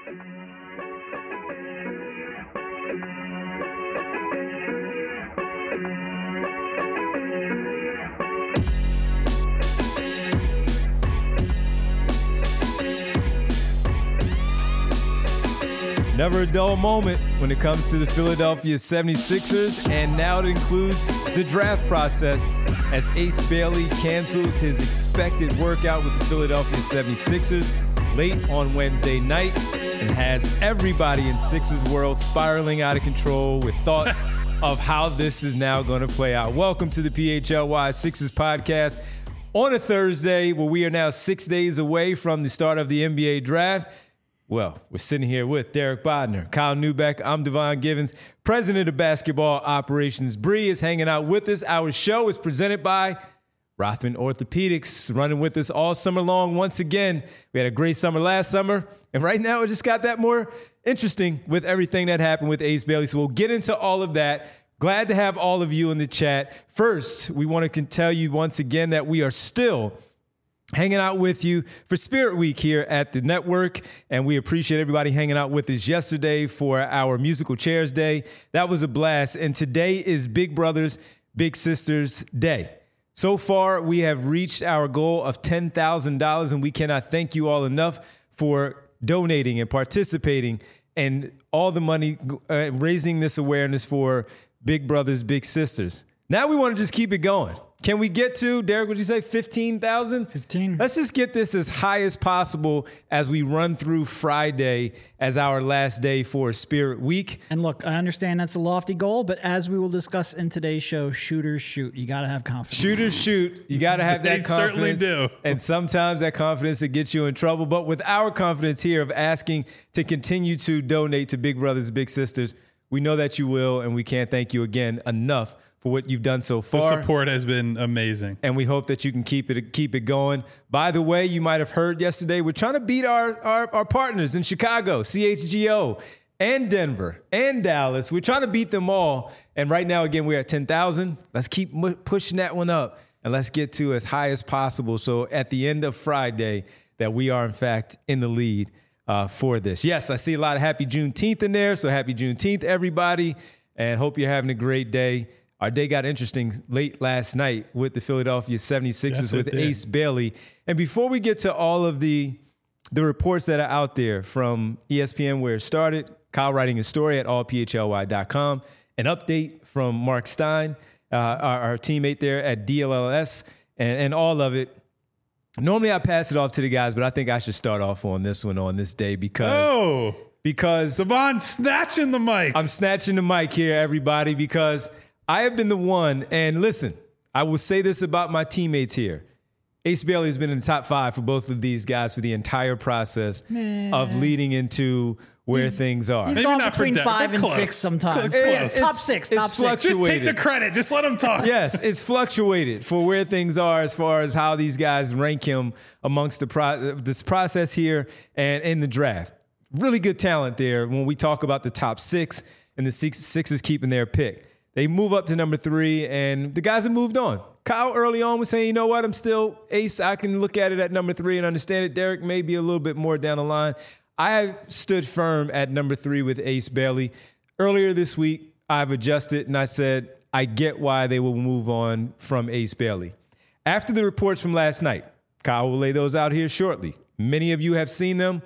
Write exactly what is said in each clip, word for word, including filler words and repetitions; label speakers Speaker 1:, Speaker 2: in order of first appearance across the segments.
Speaker 1: Never a dull moment when it comes to the Philadelphia seventy-sixers, and now it includes the draft process as Ace Bailey cancels his expected workout with the Philadelphia seventy-sixers late on Wednesday night and has everybody in Sixers world spiraling out of control with thoughts of how this is now going to play out. Welcome to the P H L Y Sixers podcast on a Thursday where we are now six days away from the start of the N B A draft. Well, we're sitting here with Derek Bodner, Kyle Neubeck. I'm Devon Givens, president of basketball operations. Bree is hanging out with us. Our show is presented by Rothman Orthopedics, running with us all summer long. Once again, we had a great summer last summer, and right now it just got that more interesting with everything that happened with Ace Bailey. So we'll get into all of that. Glad to have all of you in the chat. First, we want to tell you once again that we are still hanging out with you for Spirit Week here at the network, and we appreciate everybody hanging out with us yesterday for our Musical Chairs Day. That was a blast, and today is Big Brothers, Big Sisters Day. So far, we have reached our goal of ten thousand dollars, and we cannot thank you all enough for donating and participating and all the money, uh, raising this awareness for Big Brothers, Big Sisters. Now we want to just keep it going. Can we get to, Derek, would you say fifteen thousand?
Speaker 2: fifteen.
Speaker 1: Let's just get this as high as possible as we run through Friday as our last day for Spirit Week.
Speaker 2: And look, I understand that's a lofty goal, but as we will discuss in today's show, shooters shoot. You got to have confidence.
Speaker 1: Shooters shoot. You got to have that
Speaker 3: they
Speaker 1: confidence.
Speaker 3: Certainly do.
Speaker 1: And sometimes that confidence will get you in trouble. But with our confidence here of asking to continue to donate to Big Brothers, Big Sisters, we know that you will, and we can't thank you again enough for what you've done so far.
Speaker 3: The support has been amazing.
Speaker 1: And we hope that you can keep it keep it going. By the way, you might have heard yesterday, we're trying to beat our, our, our partners in Chicago, C H G O, and Denver, and Dallas. We're trying to beat them all. And right now, again, we're at ten thousand. Let's keep m- pushing that one up, and let's get to as high as possible. So at the end of Friday, that we are, in fact, in the lead uh, for this. Yes, I see a lot of happy Juneteenth in there. So happy Juneteenth, everybody, and hope you're having a great day. Our day got interesting late last night with the Philadelphia seventy-sixers
Speaker 3: Yes,
Speaker 1: with
Speaker 3: did.
Speaker 1: Ace Bailey. And before we get to all of the the reports that are out there from E S P N where it started, Kyle writing a story at all p h l y dot com, an update from Mark Stein, uh, our, our teammate there at D L L S, and, and all of it. Normally I pass it off to the guys, but I think I should start off on this one on this day because...
Speaker 3: Oh,
Speaker 1: because
Speaker 3: Devon snatching the mic.
Speaker 1: I'm snatching the mic here, everybody, because I have been the one, and listen, I will say this about my teammates here. Ace Bailey has been in the top five for both of these guys for the entire process
Speaker 2: Nah.
Speaker 1: of leading into where things are.
Speaker 2: He's
Speaker 3: Maybe
Speaker 2: gone
Speaker 3: not for
Speaker 2: between
Speaker 3: Denver,
Speaker 2: five
Speaker 3: but
Speaker 2: and
Speaker 3: close.
Speaker 2: six sometimes.
Speaker 3: Close.
Speaker 2: Yeah,
Speaker 1: It's-
Speaker 2: top six,
Speaker 1: it's
Speaker 2: top six.
Speaker 1: fluctuated.
Speaker 3: Just take the credit. Just let him talk.
Speaker 1: Yes, it's fluctuated for where things are as far as how these guys rank him amongst the pro- this process here and in the draft. Really good talent there when we talk about the top six and the six, Sixers keeping their pick. They move up to number three, and the guys have moved on. Kyle early on was saying, you know what, I'm still Ace. I can look at it at number three and understand it. Derek may be a little bit more down the line. I have stood firm at number three with Ace Bailey. Earlier this week, I've adjusted, and I said, I get why they will move on from Ace Bailey. After the reports from last night, Kyle will lay those out here shortly. Many of you have seen them.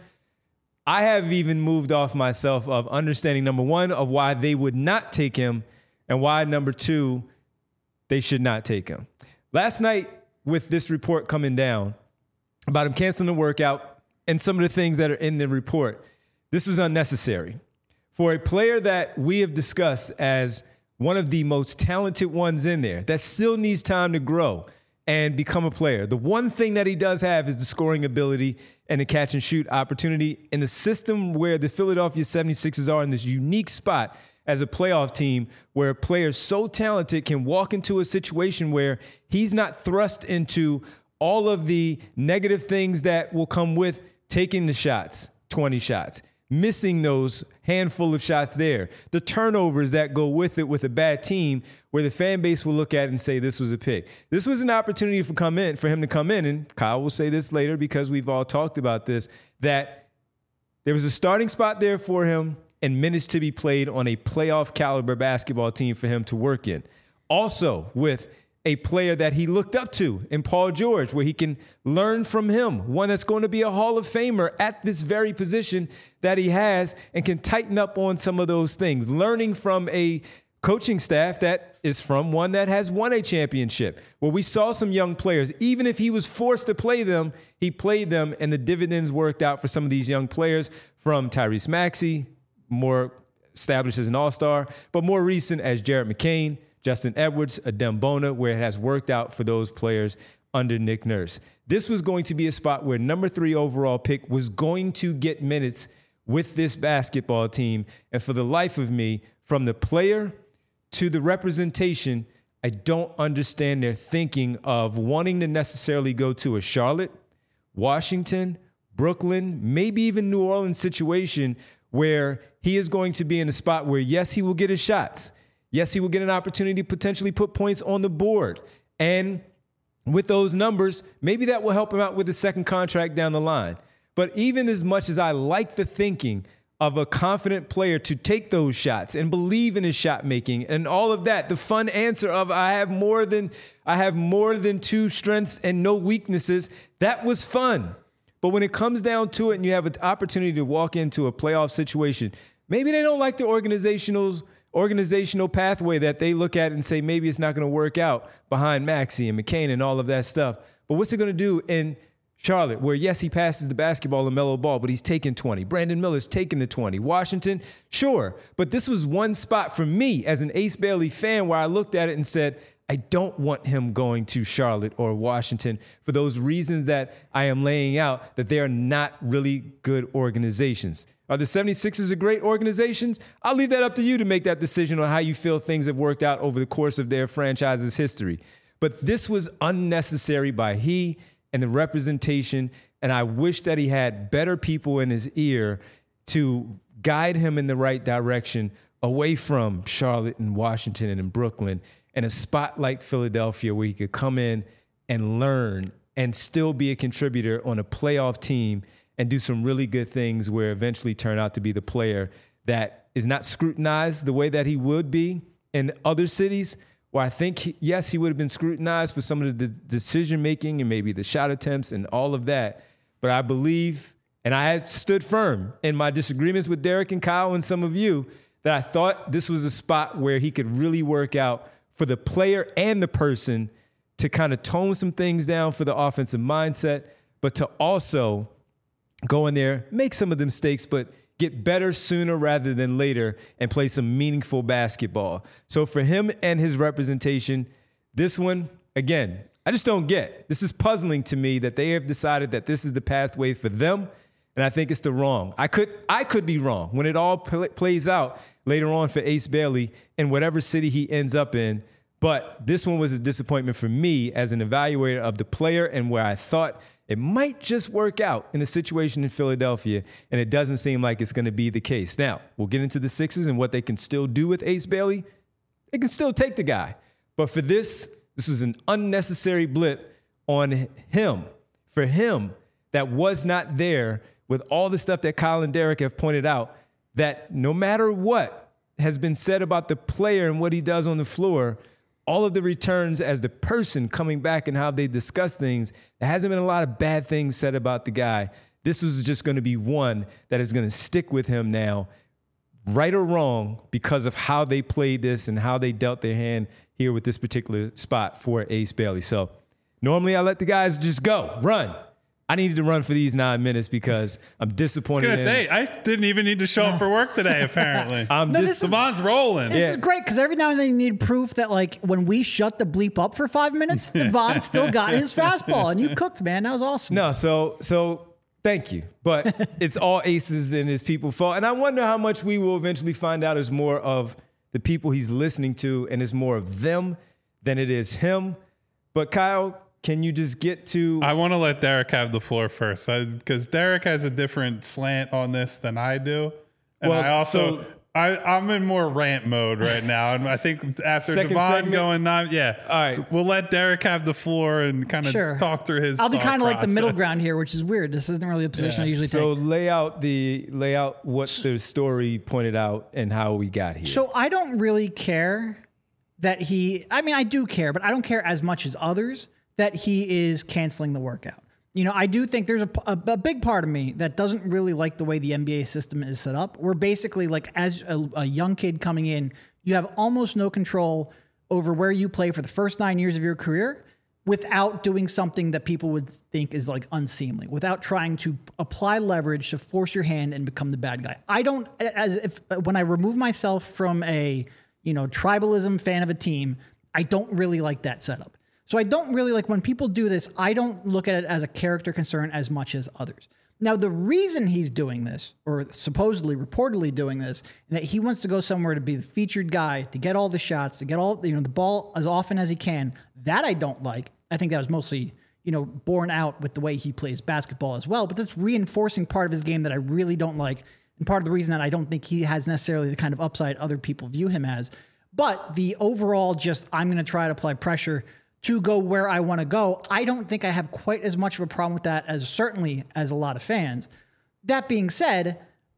Speaker 1: I have even moved off myself of understanding, number one, of why they would not take him, and why, number two, they should not take him. Last night, with this report coming down about him canceling the workout and some of the things that are in the report, this was unnecessary. For a player that we have discussed as one of the most talented ones in there, that still needs time to grow and become a player. The one thing that he does have is the scoring ability and the catch and shoot opportunity in the system where the Philadelphia seventy-sixers are in this unique spot as a playoff team where a player so talented can walk into a situation where he's not thrust into all of the negative things that will come with taking the shots, twenty shots, missing those handful of shots there, the turnovers that go with it with a bad team where the fan base will look at it and say this was a pick. This was an opportunity for come in for him to come in, and Kyle will say this later because we've all talked about this, that There was a starting spot there for him and minutes to be played on a playoff caliber basketball team for him to work in. Also with a player that he looked up to in Paul George, where he can learn from him, one that's going to be a Hall of Famer at this very position that he has and can tighten up on some of those things, learning from a coaching staff that is from one that has won a championship, where we saw some young players. Even if he was forced to play them, he played them, and the dividends worked out for some of these young players, from Tyrese Maxey, more established as an all-star, but more recent as Jared McCain, Justin Edwards, Adem Bona, where it has worked out for those players under Nick Nurse. This was going to be a spot where number three overall pick was going to get minutes with this basketball team. And for the life of me, from the player to the representation, I don't understand their thinking of wanting to necessarily go to a Charlotte, Washington, Brooklyn, maybe even New Orleans situation where he is going to be in a spot where, yes, he will get his shots. Yes, he will get an opportunity to potentially put points on the board. And with those numbers, maybe that will help him out with the second contract down the line. But even as much as I like the thinking of a confident player to take those shots and believe in his shot making and all of that, the fun answer of I have more than I have more than two strengths and no weaknesses, that was fun. But when it comes down to it and you have an opportunity to walk into a playoff situation, maybe they don't like the organizational organizational pathway that they look at and say maybe it's not going to work out behind Maxey and McCain and all of that stuff. But what's it going to do in Charlotte, where, yes, he passes the basketball and mellow ball, but he's taking twenty. Brandon Miller's taking the twenty. Washington, sure. But this was one spot for me as an Ace Bailey fan where I looked at it and said, I don't want him going to Charlotte or Washington for those reasons that I am laying out, that they are not really good organizations. Are the seventy-sixers a great organization? I'll leave that up to you to make that decision on how you feel things have worked out over the course of their franchise's history. But this was unnecessary by he and the representation, and I wish that he had better people in his ear to guide him in the right direction away from Charlotte and Washington and Brooklyn, and a spot like Philadelphia where he could come in and learn and still be a contributor on a playoff team and do some really good things where eventually turn out to be the player that is not scrutinized the way that he would be in other cities, where I think, he, yes, he would have been scrutinized for some of the decision-making and maybe the shot attempts and all of that. But I believe, and I had stood firm in my disagreements with Derek and Kyle and some of you, that I thought this was a spot where he could really work out for the player and the person to kind of tone some things down for the offensive mindset, but to also go in there, make some of the mistakes, but get better sooner rather than later and play some meaningful basketball. So for him and his representation, this one, again, I just don't get. This is puzzling to me that they have decided that this is the pathway for them, and I think it's the wrong. I could I could be wrong when it all pl- plays out later on for Ace Bailey in whatever city he ends up in. But this one was a disappointment for me as an evaluator of the player and where I thought it might just work out in a situation in Philadelphia, and it doesn't seem like it's going to be the case. Now, we'll get into the Sixers and what they can still do with Ace Bailey. They can still take the guy. But for this, this was an unnecessary blip on him. For him, that was not there with all the stuff that Kyle and Derek have pointed out, that no matter what has been said about the player and what he does on the floor, all of the returns as the person coming back and how they discuss things, there hasn't been a lot of bad things said about the guy. This was just going to be one that is going to stick with him now, right or wrong, because of how they played this and how they dealt their hand here with this particular spot for Ace Bailey. So normally I let the guys just go, run. I needed to run for these nine minutes because I'm disappointed.
Speaker 3: I was going to say, I didn't even need to show up for work today, apparently.
Speaker 1: I'm
Speaker 2: No,
Speaker 1: dis-
Speaker 2: this is-
Speaker 3: Savon's rolling.
Speaker 2: This
Speaker 1: Yeah.
Speaker 2: is great because every now and then you need proof that, like, when we shut the bleep up for five minutes, Devon still got his fastball, and you cooked, man. That was awesome.
Speaker 1: No, so so thank you. But it's all Aces and his people fault. And I wonder how much we will eventually find out is more of the people he's listening to and it's more of them than it is him. But Kyle, can you just get to...
Speaker 3: I want to let Derek have the floor first because Derek has a different slant on this than I do. And
Speaker 1: Well,
Speaker 3: I also,
Speaker 1: so-
Speaker 3: I, I'm in more rant mode right now, and I think after
Speaker 1: Second
Speaker 3: Devon
Speaker 1: segment?
Speaker 3: going nine, yeah,
Speaker 1: All right.
Speaker 3: we'll let Derek have the floor and kind of
Speaker 2: Sure.
Speaker 3: talk through his.
Speaker 2: I'll be
Speaker 3: thought
Speaker 2: kind of like the middle
Speaker 3: process.
Speaker 2: ground here, which is weird. This isn't really a position I usually
Speaker 1: So
Speaker 2: take.
Speaker 1: lay out the lay out what the story pointed out and how we got here.
Speaker 2: So I don't really care that he, I mean, I do care, but I don't care as much as others that he is canceling the workout. You know, I do think there's a, a, a big part of me that doesn't really like the way the N B A system is set up. We're basically like, as a, a young kid coming in, you have almost no control over where you play for the first nine years of your career without doing something that people would think is like unseemly, without trying to apply leverage to force your hand and become the bad guy. I don't, as if when I remove myself from a, you know, tribalism fan of a team, I don't really like that setup. So I don't really like when people do this, I don't look at it as a character concern as much as others. Now, the reason he's doing this, or supposedly reportedly doing this, and that he wants to go somewhere to be the featured guy, to get all the shots, to get all, you know, the ball as often as he can, that I don't like. I think that was mostly, you know, borne out with the way he plays basketball as well. But that's reinforcing part of his game that I really don't like. And part of the reason that I don't think he has necessarily the kind of upside other people view him as. But the overall just, I'm going to try to apply pressure to go where I want to go, I don't think I have quite as much of a problem with that as certainly as a lot of fans. That being said,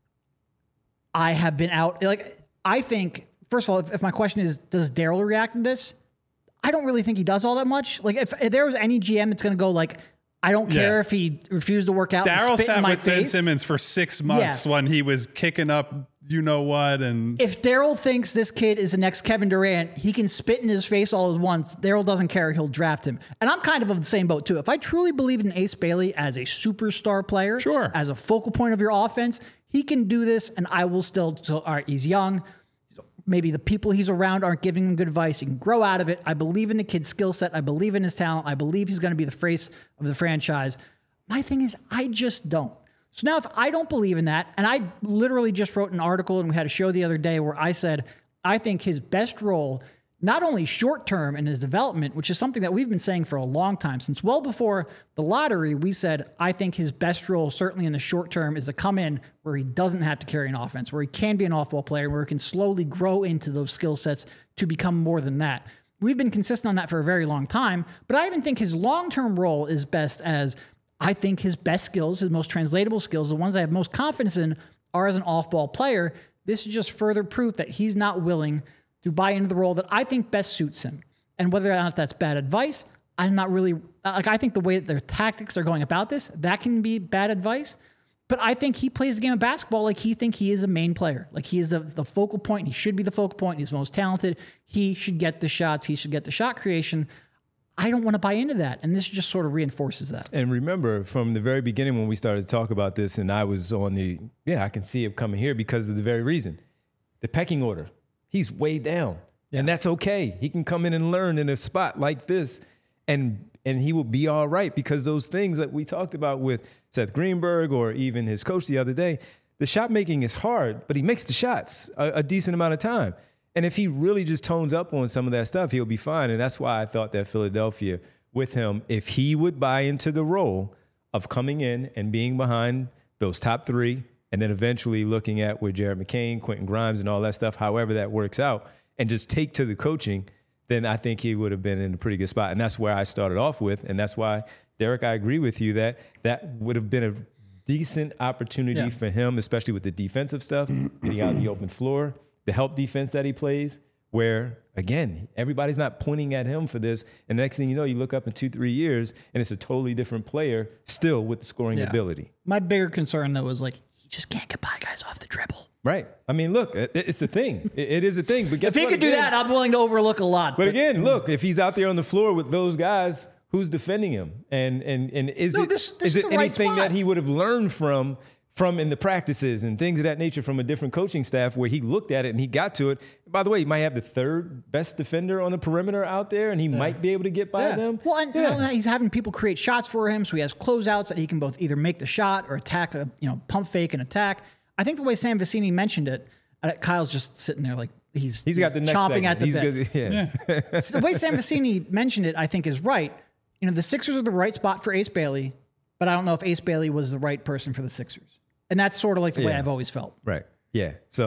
Speaker 2: I have been out, like, I think, first of all, if, if my question is, does Daryl react to this? I don't really think he does all that much. Like, if, if there was any G M that's going to go, like, I don't care
Speaker 3: Yeah.
Speaker 2: if he refused to work out and
Speaker 3: Daryl
Speaker 2: spit in
Speaker 3: sat
Speaker 2: my
Speaker 3: with Ben
Speaker 2: face.
Speaker 3: Simmons for six months
Speaker 2: Yeah.
Speaker 3: when he was kicking up, you know what, and
Speaker 2: If Daryl thinks this kid is the next Kevin Durant, he can spit in his face all at once. Daryl doesn't care. He'll draft him. And I'm kind of of the same boat, too. If I truly believe in Ace Bailey as a superstar player,
Speaker 3: Sure.
Speaker 2: as a focal point of your offense, he can do this, and I will still, so, all right, he's young. Maybe the people he's around aren't giving him good advice. He can grow out of it. I believe in the kid's skill set. I believe in his talent. I believe he's going to be the face of the franchise. My thing is, I just don't. So now if I don't believe in that, and I literally just wrote an article and we had a show the other day where I said, I think his best role, not only short term in his development, which is something that we've been saying for a long time, since well before the lottery, we said, I think his best role, certainly in the short term, is to come in where he doesn't have to carry an offense, where he can be an off-ball player, where he can slowly grow into those skill sets to become more than that. We've been consistent on that for a very long time, but I even think his long-term role is best as, I think his best skills, his most translatable skills, the ones I have most confidence in, are as an off-ball player. This is just further proof that he's not willing to buy into the role that I think best suits him. And whether or not that's bad advice, I'm not really, like, I think the way that their tactics are going about this, that can be bad advice. But I think he plays the game of basketball like he think he is a main player. Like he is the, the focal point. He should be the focal point. He's most talented. He should get the shots. He should get the shot creation. I don't want to buy into that. And this just sort of reinforces that.
Speaker 1: And remember, from the very beginning when we started to talk about this, and I was on the, yeah, I can see it coming here because of the very reason. The pecking order. He's way down. Yeah. And that's okay. He can come in and learn in a spot like this, and and he will be all right, because those things that we talked about with Seth Greenberg or even his coach the other day, the shot making is hard, but he makes the shots a, a decent amount of time. And if he really just tones up on some of that stuff, he'll be fine. And that's why I thought that Philadelphia with him, if he would buy into the role of coming in and being behind those top three, and then eventually looking at with Jared McCain, Quentin Grimes, and all that stuff, however that works out, and just take to the coaching, then I think he would have been in a pretty good spot. And that's where I started off with. And that's why, Derek, I agree with you that that would have been a decent opportunity
Speaker 2: Yeah.
Speaker 1: for him, especially with the defensive stuff, getting out the open floor, the help defense that he plays, where, again, everybody's not pointing at him for this. And the next thing you know, you look up in two, three years, and it's a totally different player still with the scoring
Speaker 2: Yeah.
Speaker 1: ability.
Speaker 2: My bigger concern, though, is like, he just can't get by guys off the dribble.
Speaker 1: Right. I mean, look, it, it's a thing. It, it is a thing. But guess
Speaker 2: If he
Speaker 1: what?
Speaker 2: could do
Speaker 1: Again-
Speaker 2: that, I'm willing to overlook a lot.
Speaker 1: But again, look, if he's out there on the floor with those guys, who's defending him? And and and is
Speaker 2: No,
Speaker 1: it
Speaker 2: this- this
Speaker 1: is
Speaker 2: is
Speaker 1: it
Speaker 2: the right
Speaker 1: anything
Speaker 2: spot.
Speaker 1: that he would have learned from from in the practices and things of that nature from a different coaching staff where he looked at it and he got to it? By the way, he might have the third best defender on the perimeter out there, and he might be able to get by
Speaker 2: Yeah.
Speaker 1: them.
Speaker 2: Well, and
Speaker 1: Yeah.
Speaker 2: not only that, he's having people create shots for him, so he has closeouts that he can both either make the shot or attack a, you know, pump fake and attack. I think the way Sam Vecini mentioned it, uh, Kyle's just sitting there like he's,
Speaker 1: He's got the next
Speaker 2: chomping
Speaker 1: segment.
Speaker 2: at the
Speaker 1: He's
Speaker 2: bit.
Speaker 1: good- yeah.
Speaker 2: The way Sam Vecini mentioned it, I think, is right. You know, the Sixers are the right spot for Ace Bailey, but I don't know if Ace Bailey was the right person for the Sixers. And that's sort of like the way
Speaker 1: Yeah.
Speaker 2: I've always felt.
Speaker 1: Right. Yeah. So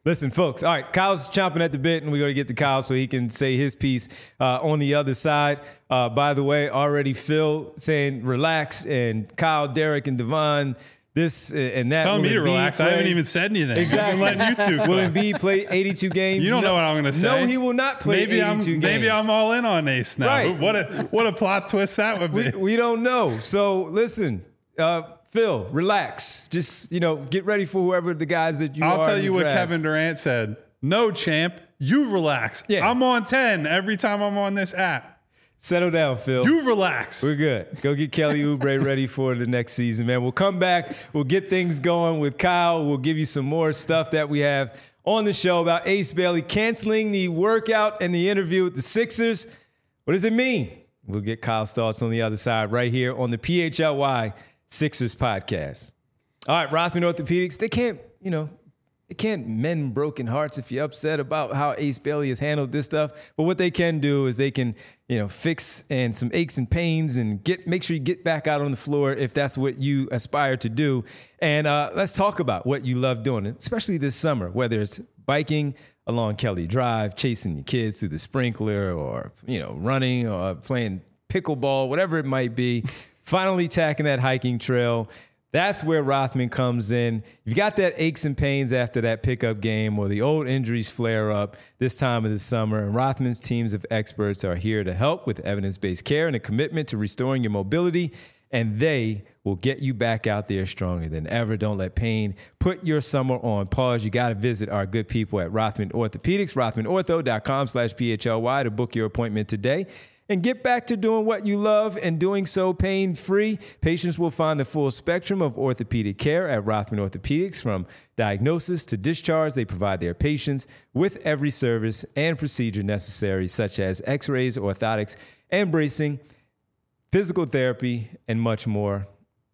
Speaker 1: Listen, folks. All right, Kyle's chomping at the bit, and we're going to get to Kyle so he can say his piece uh, on the other side. Uh, by the way, already Phil saying relax, and Kyle, Derek, and Devon, this and that.
Speaker 3: Telling me to relax.
Speaker 1: Play?
Speaker 3: I haven't even said anything.
Speaker 1: Exactly.
Speaker 3: I'm letting you two.
Speaker 1: Will Embiid play eighty-two games?
Speaker 3: You don't
Speaker 1: no,
Speaker 3: know what I'm going to say.
Speaker 1: No, he will not play
Speaker 3: maybe
Speaker 1: eighty-two
Speaker 3: I'm,
Speaker 1: games.
Speaker 3: Maybe I'm all in on Ace now.
Speaker 1: Right.
Speaker 3: What a what a plot twist that would be.
Speaker 1: We, we don't know. So listen, uh, Phil, relax. Just, you know, get ready for whoever the guys that you
Speaker 3: I'll
Speaker 1: are.
Speaker 3: tell you what
Speaker 1: draft.
Speaker 3: Kevin Durant said. No, champ. You relax.
Speaker 1: Yeah.
Speaker 3: I'm on ten every time I'm on this app.
Speaker 1: Settle down, Phil.
Speaker 3: You relax.
Speaker 1: We're good. Go get Kelly Oubre ready for the next season, man. We'll come back. We'll get things going with Kyle. We'll give you some more stuff that we have on the show about Ace Bailey canceling the workout and the interview with the Sixers. What does it mean? We'll get Kyle's thoughts on the other side right here on the P H L Y Sixers podcast. All right, Rothman Orthopedics, they can't, you know, They can't mend broken hearts if you're upset about how Ace Bailey has handled this stuff. But what they can do is they can, you know, fix and some aches and pains and get make sure you get back out on the floor if that's what you aspire to do. And uh, let's talk about what you love doing, especially this summer, whether it's biking along Kelly Drive, chasing your kids through the sprinkler, or, you know, running or playing pickleball, whatever it might be, finally tacking that hiking trail. That's where Rothman comes in. You've got that aches and pains after that pickup game or the old injuries flare up this time of the summer, and Rothman's teams of experts are here to help with evidence-based care and a commitment to restoring your mobility, and they will get you back out there stronger than ever. Don't let pain put your summer on pause. You got to visit our good people at Rothman Orthopedics, rothmanortho.com slash PHLY to book your appointment today. And get back to doing what you love and doing so pain-free. Patients will find the full spectrum of orthopedic care at Rothman Orthopedics. From diagnosis to discharge, they provide their patients with every service and procedure necessary, such as x-rays, orthotics, and bracing, physical therapy, and much more.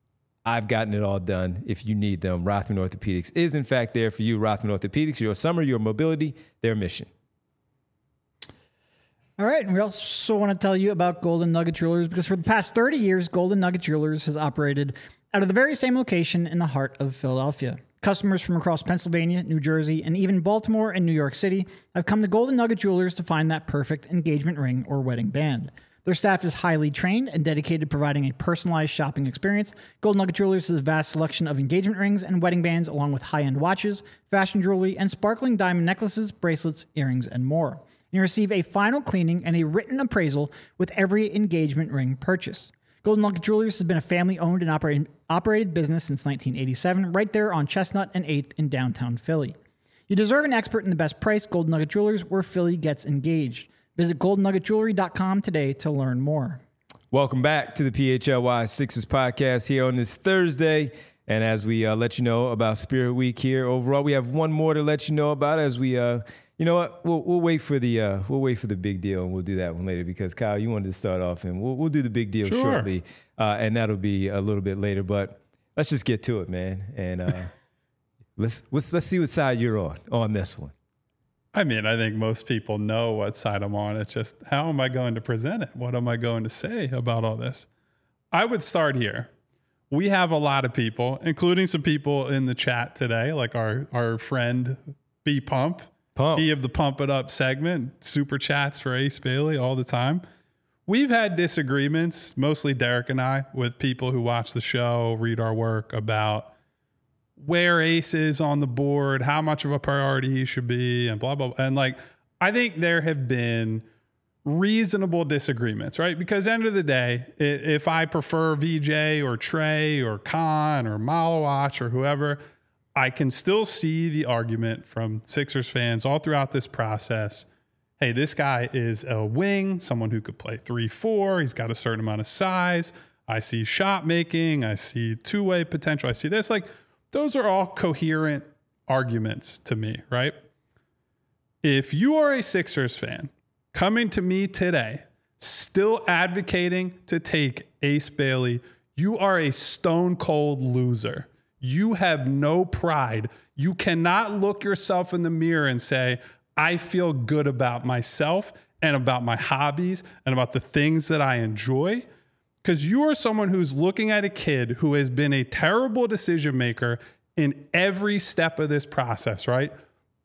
Speaker 1: I've gotten it all done. If you need them, Rothman Orthopedics is, in fact, there for you. Rothman Orthopedics, your summer, your mobility, their mission.
Speaker 2: All right, and we also want to tell you about Golden Nugget Jewelers, because for the past thirty years, Golden Nugget Jewelers has operated out of the very same location in the heart of Philadelphia. Customers from across Pennsylvania, New Jersey, and even Baltimore and New York City have come to Golden Nugget Jewelers to find that perfect engagement ring or wedding band. Their staff is highly trained and dedicated to providing a personalized shopping experience. Golden Nugget Jewelers has a vast selection of engagement rings and wedding bands, along with high-end watches, fashion jewelry, and sparkling diamond necklaces, bracelets, earrings, and more. You receive a final cleaning and a written appraisal with every engagement ring purchase. Golden Nugget Jewelers has been a family-owned and operated, operated business since nineteen eighty-seven, right there on Chestnut and eighth in downtown Philly. You deserve an expert in the best price, Golden Nugget Jewelers, where Philly gets engaged. Visit golden nugget jewelry dot com today to learn more.
Speaker 1: Welcome back to the P H L Y Sixers podcast here on this Thursday. And as we uh, let you know about Spirit Week here overall, we have one more to let you know about as we... Uh, You know what? We'll we'll wait for the uh, we'll wait for the big deal, and we'll do that one later because Kyle, you wanted to start off, and we'll we'll do the big deal
Speaker 3: Sure.
Speaker 1: shortly, uh, and that'll be a little bit later. But let's just get to it, man, and uh, let's let's let's see what side you're on on this one.
Speaker 3: I mean, I think most people know what side I'm on. It's just, how am I going to present it? What am I going to say about all this? I would start here. We have a lot of people, including some people in the chat today, like our our friend B Pump.
Speaker 1: Pump.
Speaker 3: He of the Pump It Up segment, super chats for Ace Bailey all the time. We've had disagreements, mostly Derek and I, with people who watch the show, read our work, about where Ace is on the board, how much of a priority he should be, and blah, blah, blah. And like, I think there have been reasonable disagreements, right? Because at the end of the day, if I prefer V J or Trey or Khan or Malawach or whoever, I can still see the argument from Sixers fans all throughout this process. Hey, this guy is a wing, someone who could play three four. He's got a certain amount of size. I see shot making. I see two-way potential. I see this. Like, those are all coherent arguments to me, right? If you are a Sixers fan coming to me today, still advocating to take Ace Bailey, you are a stone-cold loser. You have no pride. You cannot look yourself in the mirror and say, I feel good about myself and about my hobbies and about the things that I enjoy. Because you are someone who's looking at a kid who has been a terrible decision maker in every step of this process, right?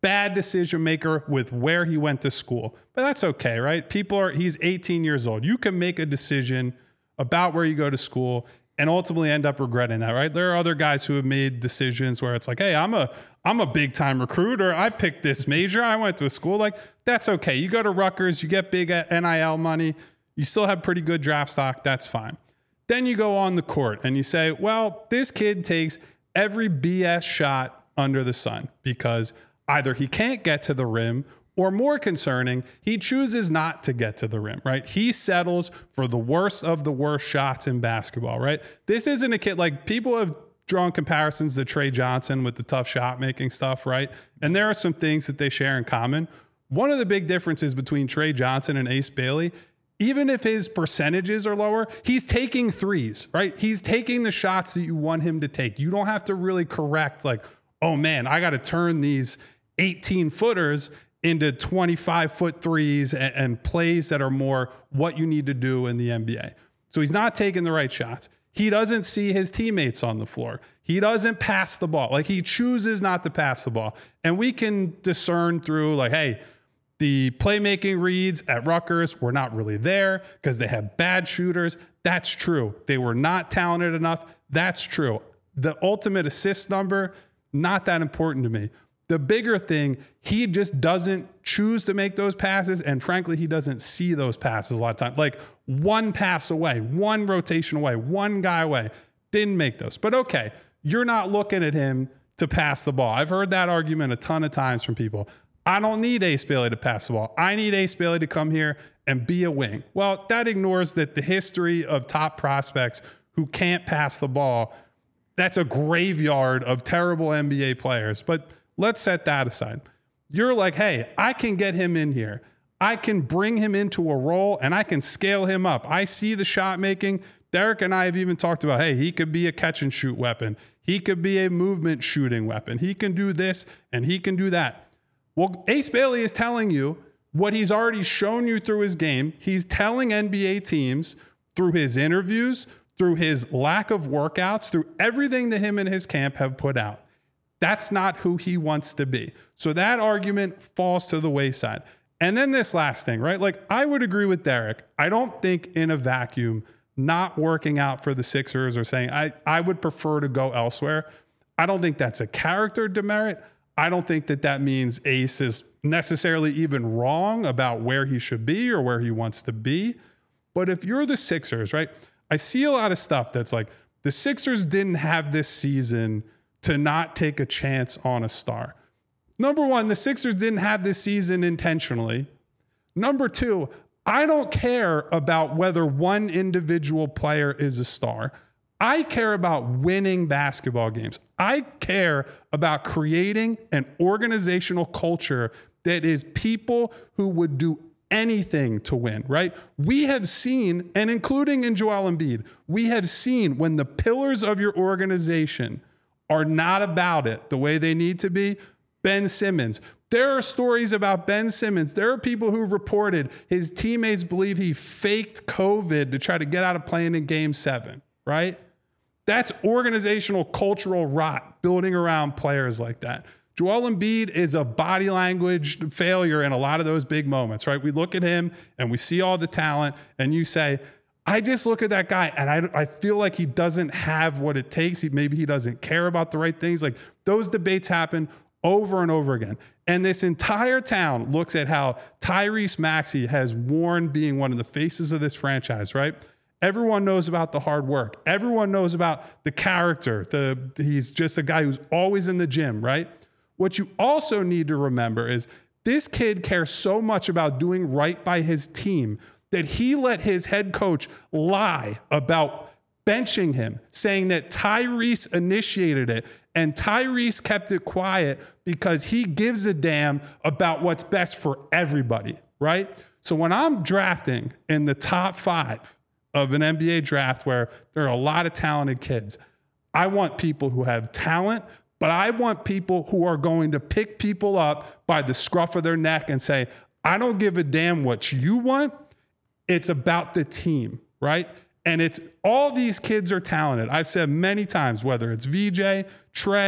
Speaker 3: bad decision maker with where he went to school. But that's okay, right? People are, he's eighteen years old. You can make a decision about where you go to school and ultimately end up regretting that, right? There are other guys who have made decisions where it's like, hey, I'm a I'm a big time recruiter. I picked this major. I went to a school. Like, that's okay. You go to Rutgers, you get big N I L money. You still have pretty good draft stock. That's fine. Then you go on the court and you say, well, this kid takes every B S shot under the sun because either he can't get to the rim, or more concerning, he chooses not to get to the rim, right? He settles for the worst of the worst shots in basketball, right? This isn't a kid, like, people have drawn comparisons to Trey Johnson with the tough shot making stuff, right? And there are some things that they share in common. One of the big differences between Trey Johnson and Ace Bailey, even if his percentages are lower, he's taking threes, right? He's taking the shots that you want him to take. You don't have to really correct, like, oh man, I got to turn these eighteen footers into twenty-five foot threes and, and plays that are more what you need to do in the N B A. So he's not taking the right shots. He doesn't see his teammates on the floor. He doesn't pass the ball. Like, he chooses not to pass the ball. And we can discern through, like, hey, the playmaking reads at Rutgers were not really there because they have bad shooters. That's true. They were not talented enough. That's true. The ultimate assist number, not that important to me. The bigger thing, he just doesn't choose to make those passes. And frankly, he doesn't see those passes a lot of times. Like, one pass away, one rotation away, one guy away, didn't make those. But okay, you're not looking at him to pass the ball. I've heard that argument a ton of times from people. I don't need Ace Bailey to pass the ball. I need Ace Bailey to come here and be a wing. Well, that ignores that the history of top prospects who can't pass the ball, that's a graveyard of terrible N B A players. But let's set that aside. You're like, hey, I can get him in here. I can bring him into a role and I can scale him up. I see the shot making. Derek and I have even talked about, hey, he could be a catch and shoot weapon. He could be a movement shooting weapon. He can do this and he can do that. Well, Ace Bailey is telling you what he's already shown you through his game. He's telling N B A teams through his interviews, through his lack of workouts, through everything that him and his camp have put out. That's not who he wants to be. So that argument falls to the wayside. And then this last thing, right? Like, I would agree with Derek. I don't think in a vacuum, not working out for the Sixers or saying, I, I would prefer to go elsewhere. I don't think that's a character demerit. I don't think that that means Ace is necessarily even wrong about where he should be or where he wants to be. But if you're the Sixers, right? I see a lot of stuff that's like, the Sixers didn't have this season to not take a chance on a star. Number one, the Sixers didn't have this season intentionally. Number two, I don't care about whether one individual player is a star. I care about winning basketball games. I care about creating an organizational culture that is people who would do anything to win, right? We have seen, and including in Joel Embiid, we have seen when the pillars of your organization are not about it the way they need to be. Ben Simmons. There are stories about Ben Simmons. There are people who reported his teammates believe he faked COVID to try to get out of playing in game seven, right? That's organizational cultural rot building around players like that. Joel Embiid is a body language failure in a lot of those big moments, right? We look at him and we see all the talent and you say, I just look at that guy and I, I feel like he doesn't have what it takes. He, maybe he doesn't care about the right things. Like, those debates happen over and over again. And this entire town looks at how Tyrese Maxey has worn being one of the faces of this franchise, right? Everyone knows about the hard work. Everyone knows about the character. The he's just a guy who's always in the gym, right? What you also need to remember is this kid cares so much about doing right by his team that he let his head coach lie about benching him, saying that Tyrese initiated it and Tyrese kept it quiet because he gives a damn about what's best for everybody, right? So when I'm drafting in the top five of an N B A draft where there are a lot of talented kids, I want people who have talent, but I want people who are going to pick people up by the scruff of their neck and say, I don't give a damn what you want. It's about the team, right? And it's all these kids are talented. I've said many times, whether it's V J, Trey,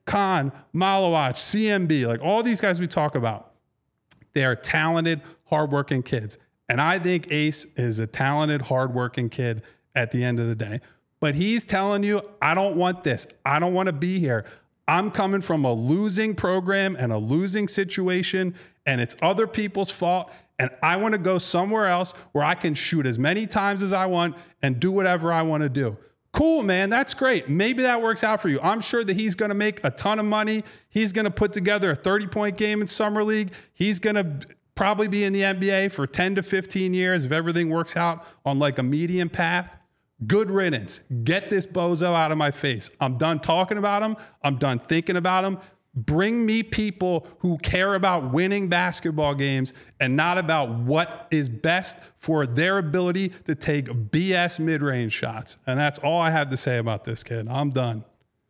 Speaker 3: Khan, Malawach, C M B, like all these guys we talk about, they are talented, hardworking kids. And I think Ace is a talented, hardworking kid at the end of the day. But he's telling you, I don't want this. I don't want to be here. I'm coming from a losing program and a losing situation, and it's other people's fault. And I want to go somewhere else where I can shoot as many times as I want and do whatever I want to do. Cool, man. That's great. Maybe that works out for you. I'm sure that he's going to make a ton of money. He's going to put together a thirty-point game in Summer League. He's going to probably be in the N B A for ten to fifteen years if everything works out on like a median path. Good riddance. Get this bozo out of my face. I'm done talking about him. I'm done thinking about him. Bring me people who care about winning basketball games and not about what is best for their ability to take B S mid-range shots. And that's all I have to say about this kid. I'm done.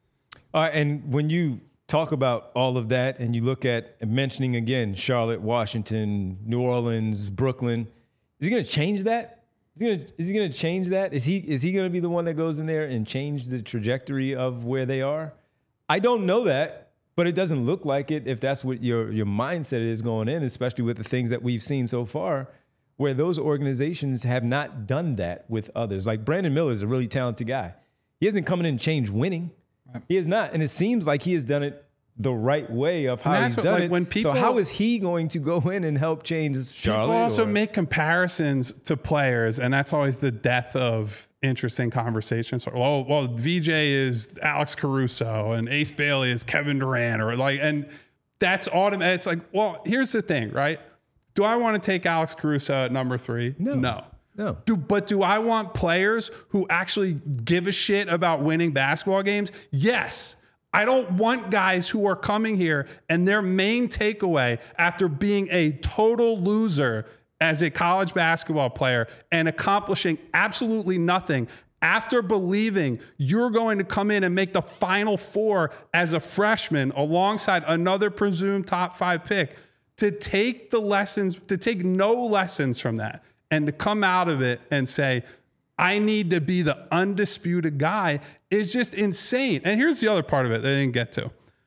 Speaker 1: All right, and when you talk about all of that and you look at mentioning again Charlotte, Washington, New Orleans, Brooklyn, is he going to change that? Is he gonna, is he going to change that? Is he is he going to be the one that goes in there and change the trajectory of where they are? I don't know that. But it doesn't look like it if that's what your your mindset is going in, especially with the things that we've seen so far, where those organizations have not done that with others. Like Brandon Miller is a really talented guy. He hasn't come in and changed winning. Right. He has not. And it seems like he has done it the right way of how he's
Speaker 3: what,
Speaker 1: done
Speaker 3: like,
Speaker 1: it.
Speaker 3: When people,
Speaker 1: so how is he going to go in and help change Charlotte?
Speaker 3: People also
Speaker 1: or,
Speaker 3: make comparisons to players, and that's always the death of interesting conversations. Well, well, V J is Alex Caruso and Ace Bailey is Kevin Durant, or like, and that's automatic. It's like, well, here's the thing, right? Do I want to take Alex Caruso at number three?
Speaker 1: No.
Speaker 3: No.
Speaker 1: No.
Speaker 3: Do, but do I want players who actually give a shit about winning basketball games? Yes. I don't want guys who are coming here and their main takeaway after being a total loser as a college basketball player and accomplishing absolutely nothing after believing you're going to come in and make the Final Four as a freshman alongside another presumed top five pick, to take the lessons, to take no lessons from that and to come out of it and say, I need to be the undisputed guy, is just insane. And here's the other part of it that I didn't get to.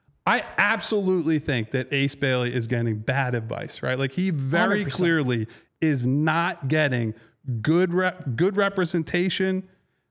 Speaker 3: I absolutely think that Ace Bailey is getting bad advice, right? Like he very one hundred percent clearly is not getting good rep, good representation.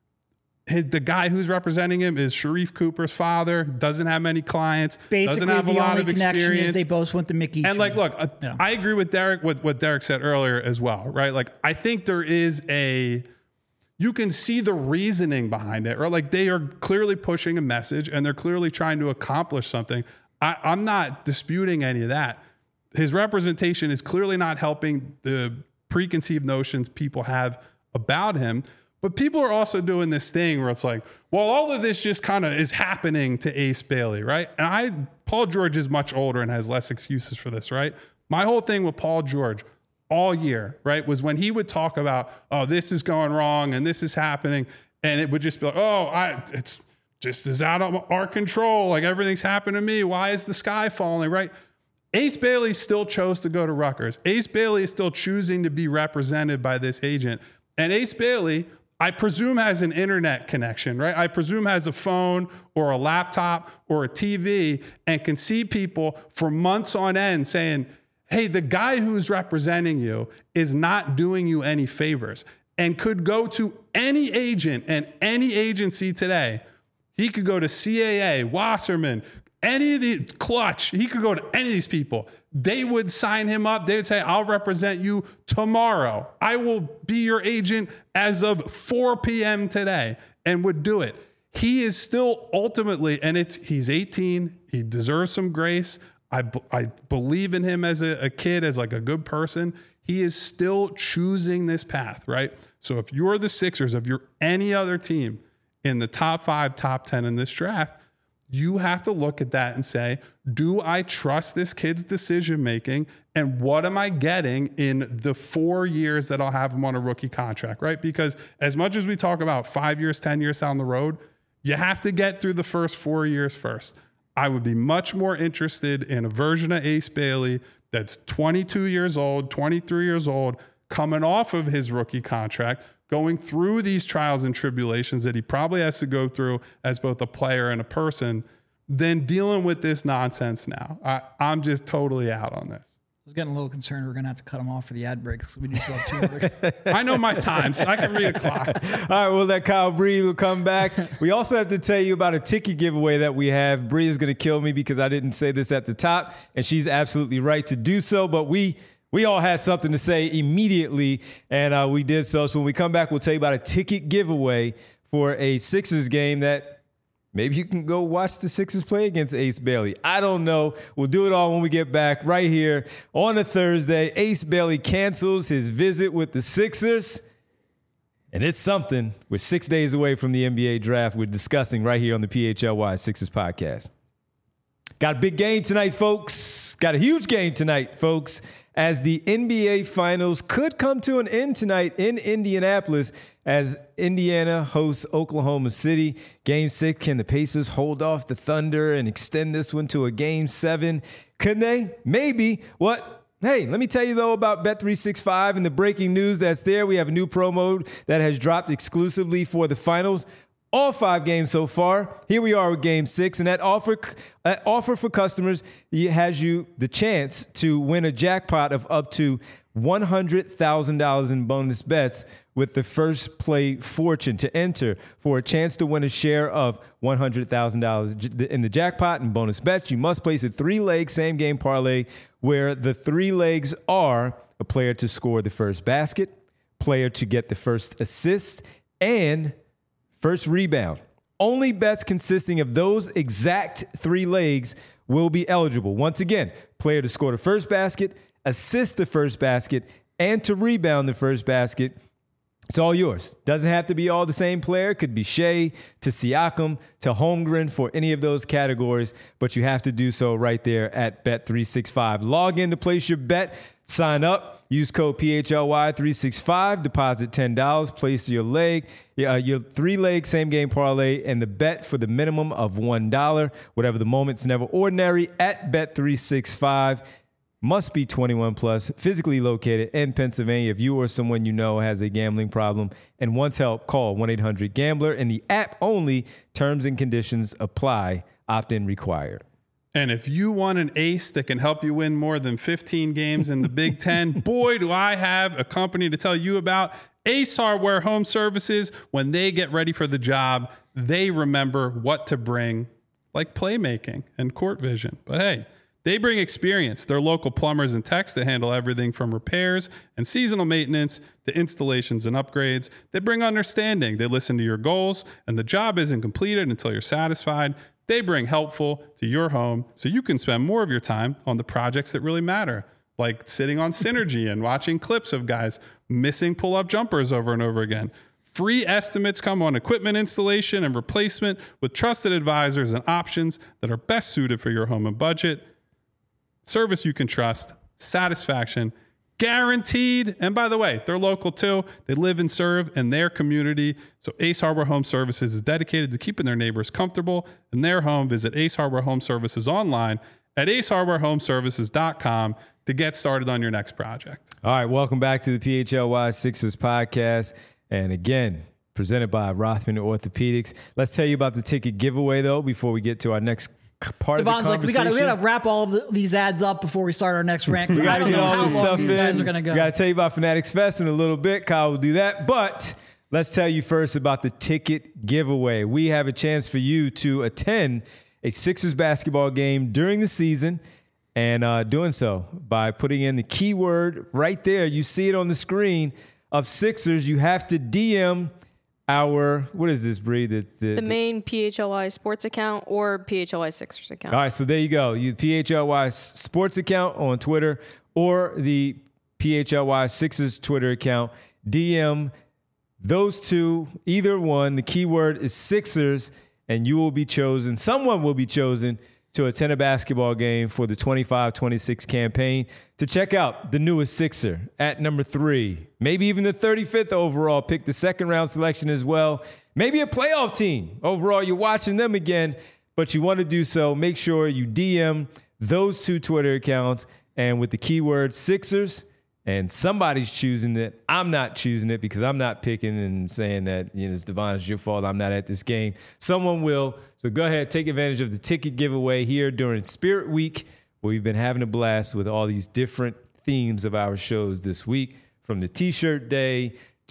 Speaker 3: His, the guy who's representing him is Sharif Cooper's father, doesn't have many clients,
Speaker 2: Basically,
Speaker 3: doesn't have a
Speaker 2: the
Speaker 3: lot
Speaker 2: only
Speaker 3: of
Speaker 2: connection
Speaker 3: experience.
Speaker 2: is they both went to Mickey.
Speaker 3: And like, look, uh,
Speaker 2: yeah.
Speaker 3: I agree with Derek, with what Derek said earlier as well, right? Like, I think there is a, you can see the reasoning behind it, or like they are clearly pushing a message and they're clearly trying to accomplish something. I, I'm not disputing any of that. His representation is clearly not helping the preconceived notions people have about him. But people are also doing this thing where it's like, well, all of this just kind of is happening to Ace Bailey, right? And I, Paul George is much older and has less excuses for this, right? My whole thing with Paul George all year, right, was when he would talk about, oh, this is going wrong and this is happening. And it would just be like, oh, I, it's just is out of our control. Like everything's happened to me. Why is the sky falling, right? Ace Bailey still chose to go to Rutgers. Ace Bailey is still choosing to be represented by this agent. And Ace Bailey, I presume, has an internet connection, right? I presume has a phone or a laptop or a T V and can see people for months on end saying, hey, the guy who's representing you is not doing you any favors, and could go to any agent and any agency today. He could go to C A A, Wasserman, any of the Clutch. He could go to any of these people. They would sign him up. They would say, I'll represent you tomorrow. I will be your agent as of four p.m. today, and would do it. He is still ultimately, and it's he's eighteen. He deserves some grace. I, I believe in him as a, a kid, as like a good person. He is still choosing this path, right? So if you're the Sixers, if you're any other team in the top five, top ten in this draft, you have to look at that and say, do I trust this kid's decision-making? And what am I getting in the four years that I'll have him on a rookie contract, right? Because as much as we talk about five years, ten years down the road, you have to get through the first four years first. I would be much more interested in a version of Ace Bailey that's twenty-two years old, twenty-three years old, coming off of his rookie contract, going through these trials and tribulations that he probably has to go through as both a player and a person, than dealing with this nonsense now. I, I'm just totally out on this.
Speaker 2: I was getting a little concerned we're going to have to cut him off for the ad breaks. We do still have two more.
Speaker 3: I know my time, so I can read a clock.
Speaker 1: All right, we'll let Kyle Bree will come back. We also have to tell you about a ticket giveaway that we have. Bree is going to kill me because I didn't say this at the top, and she's absolutely right to do so. But we we all had something to say immediately, and uh, we did so. So when we come back, we'll tell you about a ticket giveaway for a Sixers game that maybe you can go watch the Sixers play against Ace Bailey. I don't know. We'll do it all when we get back right here on a Thursday. Ace Bailey cancels his visit with the Sixers. And it's something. We're six days away from the N B A draft. We're discussing right here on the P H L Y Sixers podcast. Got a big game tonight, folks. Got a huge game tonight, folks, as the N B A Finals could come to an end tonight in Indianapolis as Indiana hosts Oklahoma City. Game six, can the Pacers hold off the Thunder and extend this one to a game seven? Could they? Maybe. What? Hey, let me tell you, though, about Bet three sixty-five and the breaking news that's there. We have a new promo that has dropped exclusively for the finals. All five games so far. Here we are with game six, and that offer, that offer for customers has you the chance to win a jackpot of up to one hundred thousand dollars in bonus bets with the first play fortune to enter for a chance to win a share of one hundred thousand dollars in the jackpot and bonus bets. You must place a three-leg same-game parlay where the three legs are a player to score the first basket, player to get the first assist, and first rebound. Only bets consisting of those exact three legs will be eligible. Once again, player to score the first basket, assist the first basket, and to rebound the first basket. It's all yours. Doesn't have to be all the same player. It could be Shea to Siakam to Holmgren for any of those categories, but you have to do so right there at Bet three sixty-five. Log in to place your bet, sign up, use code P H L Y three sixty-five, deposit ten dollars, place your leg, uh, your three-leg same-game parlay, and the bet for the minimum of one dollar. Whatever the moment's never ordinary at Bet three sixty-five. Must be twenty-one plus, physically located in Pennsylvania. If you or someone you know has a gambling problem and wants help, call one eight hundred gambler. And the app only, terms and conditions apply, opt-in required.
Speaker 3: And if you want an ace that can help you win more than fifteen games in the Big Ten, boy, do I have a company to tell you about. Ace Hardware Home Services. When they get ready for the job, they remember what to bring, like playmaking and court vision. But hey, they bring experience. They're local plumbers and techs that handle everything from repairs and seasonal maintenance to installations and upgrades. They bring understanding. They listen to your goals, and the job isn't completed until you're satisfied. They bring helpful to your home so you can spend more of your time on the projects that really matter, like sitting on Synergy and watching clips of guys missing pull-up jumpers over and over again. Free estimates come on equipment installation and replacement with trusted advisors and options that are best suited for your home and budget. Service you can trust, satisfaction guaranteed. And by the way, they're local too. They live and serve in their community. So Ace Hardware Home Services is dedicated to keeping their neighbors comfortable in their home. Visit Ace Hardware Home Services online at ace hardware home services dot com to get started on your next project.
Speaker 1: All right, welcome back to the P H L Y Sixers podcast. And again, presented by Rothman Orthopedics. Let's tell you about the ticket giveaway, though, before we get to our next part
Speaker 2: Devon's
Speaker 1: of the
Speaker 2: like, we got we got to wrap all of the, these ads up before we start our next rant.
Speaker 1: We got
Speaker 2: I
Speaker 1: to
Speaker 2: don't
Speaker 1: get
Speaker 2: know
Speaker 1: all
Speaker 2: how
Speaker 1: this
Speaker 2: long
Speaker 1: stuff
Speaker 2: these
Speaker 1: in.
Speaker 2: guys are going to go.
Speaker 1: We got to tell you about Fanatics Fest in a little bit. Kyle will do that. But let's tell you first about the ticket giveaway. We have a chance for you to attend a Sixers basketball game during the season, and uh, doing so by putting in the keyword right there. You see it on the screen of Sixers. You have to D M our, what is this, Bree? The, the,
Speaker 4: the main P H L Y sports account or P H L Y Sixers account.
Speaker 1: All right, so there you go. You P H L Y sports account on Twitter or the P H L Y Sixers Twitter account. D M those two, either one. The keyword is Sixers, and you will be chosen. Someone will be chosen to attend a basketball game for the twenty-five twenty-six campaign to check out the newest Sixer at number three, maybe even the thirty-fifth overall pick, the second round selection as well. Maybe a playoff team overall. You're watching them again, but you want to do so. Make sure you D M those two Twitter accounts, and with the keyword Sixers, And somebody's choosing it. I'm not choosing it because I'm not picking and saying that, you know, it's Devon, it's your fault. I'm not at this game. Someone will. So go ahead, take advantage of the ticket giveaway here during Spirit Week, where we've been having a blast with all these different themes of our shows this week, from the T-shirt day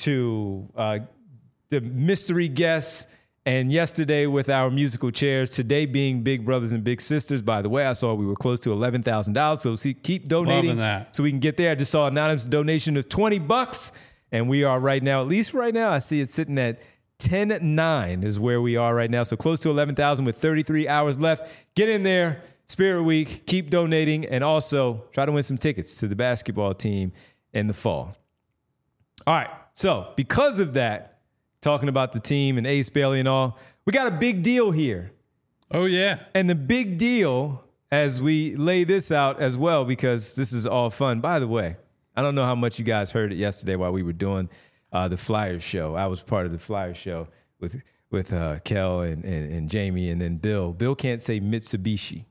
Speaker 1: to uh, the mystery guests, and yesterday with our musical chairs, today being Big Brothers and Big Sisters. By the way, I saw we were close to eleven thousand dollars, so see, keep donating
Speaker 3: that.
Speaker 1: so we can get there. I just saw an anonymous donation of twenty bucks, and we are right now, at least right now, I see it sitting at ten nine is where we are right now, so close to eleven thousand with thirty-three hours left. Get in there, Spirit Week, keep donating, and also try to win some tickets to the basketball team in the fall. All right, so because of that, talking about the team and Ace Bailey and all, we got a big deal here.
Speaker 3: Oh, yeah.
Speaker 1: And the big deal, as we lay this out as well, because this is all fun. By the way, I don't know how much you guys heard it yesterday while we were doing uh, the Flyers show. I was part of the Flyers show with with uh, Kel and, and, and Jamie and then Bill. Bill can't say Mitsubishi.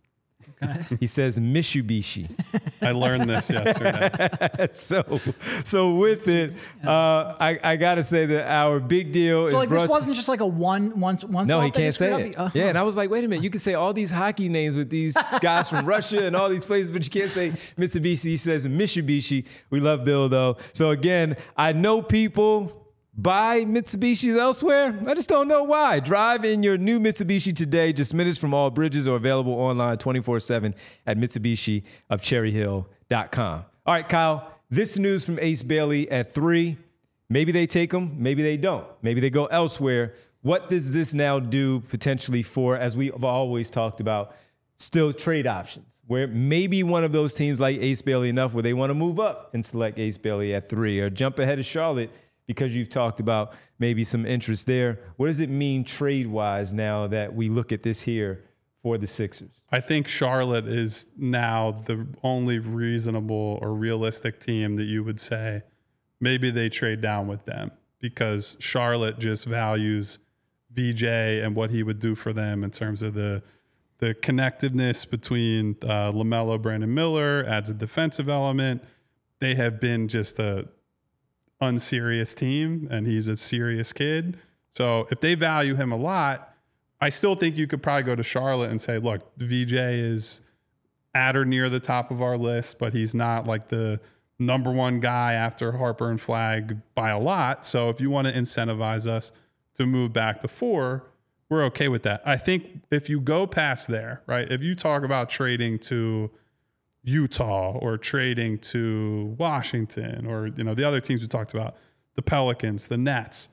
Speaker 1: He says Mitsubishi.
Speaker 3: I learned this yesterday.
Speaker 1: so, so with it, uh, I, I got to say that our big deal
Speaker 2: So
Speaker 1: is
Speaker 2: like
Speaker 1: brought
Speaker 2: this
Speaker 1: to-
Speaker 2: wasn't just like a one once once.
Speaker 1: No,
Speaker 2: off
Speaker 1: he
Speaker 2: that you
Speaker 1: can't
Speaker 2: screwed
Speaker 1: say
Speaker 2: up?
Speaker 1: it.
Speaker 2: Uh-huh.
Speaker 1: Yeah, and I was like, wait a minute, you can say all these hockey names with these guys from Russia and all these places, but you can't say Mitsubishi. He says Mitsubishi. We love Bill, though. So again, I know people buy Mitsubishis elsewhere. I just don't know why. Drive in your new Mitsubishi today, just minutes from all bridges, or available online twenty-four seven at Mitsubishi of Cherry Hill dot com. All right, Kyle, this news from Ace Bailey at three. Maybe they take him, maybe they don't. Maybe they go elsewhere. What does this now do potentially for, as we've always talked about, still trade options, where maybe one of those teams like Ace Bailey enough where they want to move up and select Ace Bailey at three, or jump ahead of Charlotte because you've talked about maybe some interest there. What does it mean trade-wise now that we look at this here for the Sixers?
Speaker 3: I think Charlotte is now the only reasonable or realistic team that you would say maybe they trade down with them, because Charlotte just values V J and what he would do for them in terms of the the connectiveness between uh, LaMelo, Brandon Miller, adds a defensive element. They have been just a unserious team, and he's a serious kid. So if they value him a lot, I still think you could probably go to Charlotte and say, look, V J is at or near the top of our list, but he's not like the number one guy after Harper and Flagg by a lot. So if you want to incentivize us to move back to four, we're okay with that. I think if you go past there, right, if you talk about trading to Utah or trading to Washington, or, you know, the other teams we talked about, the Pelicans, the Nets,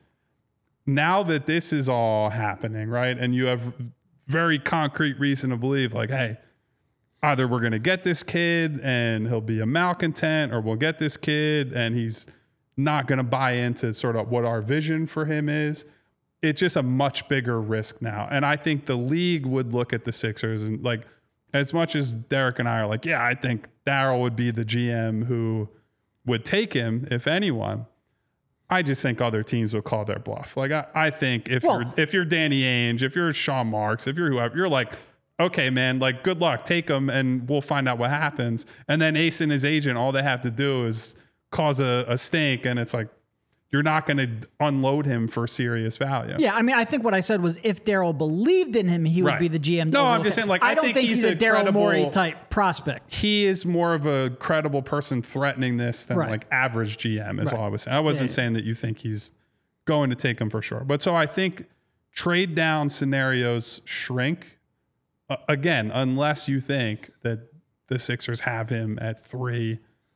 Speaker 3: now that this is all happening, right, and you have very concrete reason to believe, like, hey, either we're going to get this kid and he'll be a malcontent, or we'll get this kid and he's not going to buy into sort of what our vision for him is. It's just a much bigger risk now. And I think the league would look at the Sixers and, like, as much as Derek and I are like, yeah, I think Daryl would be the G M who would take him, if anyone. I just think other teams will call their bluff. Like, I, I think if
Speaker 2: Well,
Speaker 3: you're if you're Danny Ainge, if you're Sean Marks, if you're whoever, you're like, okay, man, like, good luck, take him, and we'll find out what happens. And then Ace and his agent, all they have to do is cause a, a stink, and it's like, you're not going to unload him for serious value.
Speaker 2: Yeah, I mean, I think what I said was if Daryl believed in him, he would
Speaker 3: Right.
Speaker 2: be the G M.
Speaker 3: No,
Speaker 2: to
Speaker 3: I'm
Speaker 2: overlook
Speaker 3: just
Speaker 2: it.
Speaker 3: saying, like,
Speaker 2: I
Speaker 3: I
Speaker 2: don't
Speaker 3: think
Speaker 2: think
Speaker 3: he's
Speaker 2: he's a
Speaker 3: a
Speaker 2: Daryl
Speaker 3: credible-
Speaker 2: Morey type prospect.
Speaker 3: He is more of a credible person threatening this than
Speaker 2: Right.
Speaker 3: like average G M is
Speaker 2: Right.
Speaker 3: all I was saying. I wasn't
Speaker 2: Yeah, yeah.
Speaker 3: saying that you think he's going to take him for sure. But so I think trade down scenarios shrink, uh, again, unless you think that the Sixers have him at three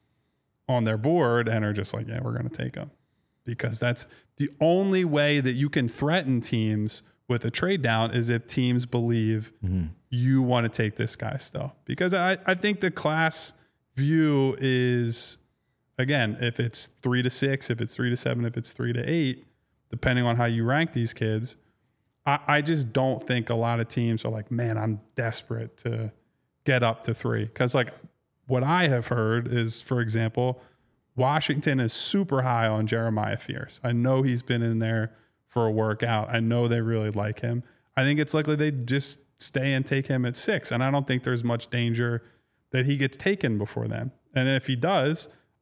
Speaker 3: on their board and are just like, yeah, we're going to take him. Because that's the only way that you can threaten teams with a trade down, is if teams believe
Speaker 1: Mm-hmm.
Speaker 3: you want to take this guy still. Because I, I think the class view is, again, if it's three to six, if it's three to seven, if it's three to eight, depending on how you rank these kids, I, I just don't think a lot of teams are like, man, I'm desperate to get up to three. Because, like, what I have heard is, for example, Washington is super high on Jeremiah Fierce. I know he's been in there for a workout. I know they really like him. I think it's likely they just stay and take him at six. And I don't think there's much danger that he gets taken before then. And if he does,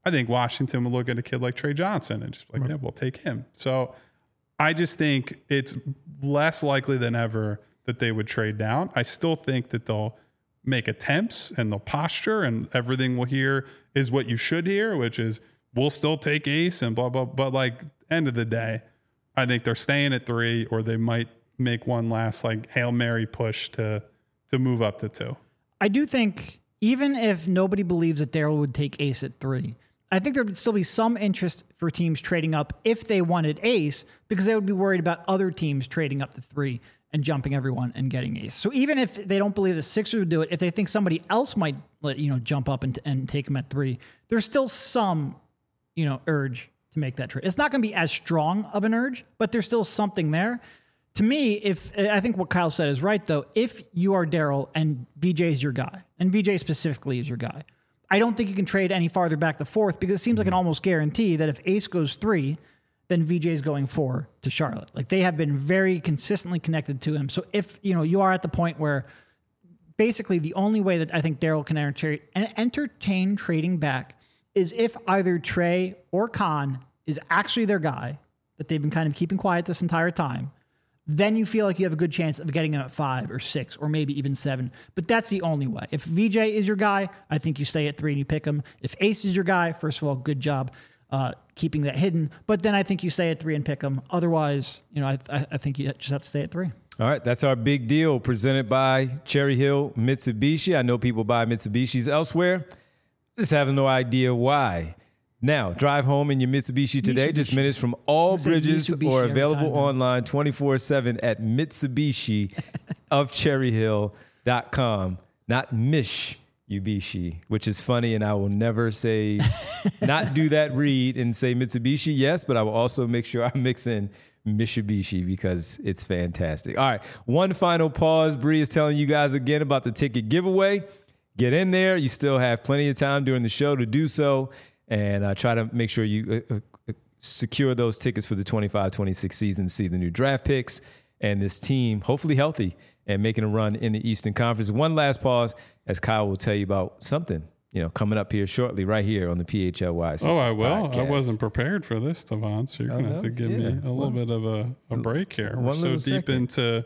Speaker 3: I think Washington would look at a kid like Trey Johnson and just be like, yeah, we'll take him. So I just think it's less likely than ever that they would trade down. I still think that they'll make attempts and they'll posture and everything we'll hear is what you should hear, which is we'll still take Ace and blah, blah. But like end of the day, I think they're staying at three, or they might make one last like Hail Mary push to to move up to two.
Speaker 2: I do think even if nobody believes that Daryl would take Ace at three, I think there would still be some interest for teams trading up if they wanted Ace, because they would be worried about other teams trading up to three and jumping everyone and getting Ace. So even if they don't believe the Sixers would do it, if they think somebody else might let you know jump up and, and take him at three, there's still some you know urge to make that trade. It's not going to be as strong of an urge, but there's still something there. To me, if I think what Kyle said is right, though, if you are Daryl and V J is your guy, and V J specifically is your guy, I don't think you can trade any farther back to fourth, because it seems like an almost guarantee that if Ace goes three, then V J is going four to Charlotte. Like, they have been very consistently connected to him. So if you know you are at the point where basically the only way that I think Daryl can entertain, entertain trading back is if either Trey or Khan is actually their guy that they've been kind of keeping quiet this entire time. Then you feel like you have a good chance of getting him at five or six or maybe even seven. But that's the only way. If V J is your guy, I think you stay at three and you pick him. If Ace is your guy, first of all, good job uh, keeping that hidden. But then I think you stay at three and pick him. Otherwise, you know, I, I think you just have to stay at three.
Speaker 1: All right, that's our big deal presented by Cherry Hill Mitsubishi. I know people buy Mitsubishis elsewhere. Just have no idea why. Now, drive home in your Mitsubishi today. Mitsubishi. Just minutes from all bridges Mitsubishi or available online twenty-four seven at Mitsubishi of Cherry Hill dot com. Not Mish Ubishi, which is funny, and I will never say, not do that read and say Mitsubishi, yes, but I will also make sure I mix in Mitsubishi because it's fantastic. All right, one final pause. Bree is telling you guys again about the ticket giveaway. Get in there. You still have plenty of time during the show to do so. And uh, try to make sure you uh, uh, secure those tickets for the twenty-five twenty-six season, see the new draft picks and this team, hopefully healthy and making a run in the Eastern Conference. One last pause as Kyle will tell you about something, you know, coming up here shortly right here on the P H L Y.
Speaker 3: Oh, I will. Podcast. I wasn't prepared for this, Devon, so you're oh, going to no? have to give yeah. me a little one, bit of a, a break here. We're so deep second. into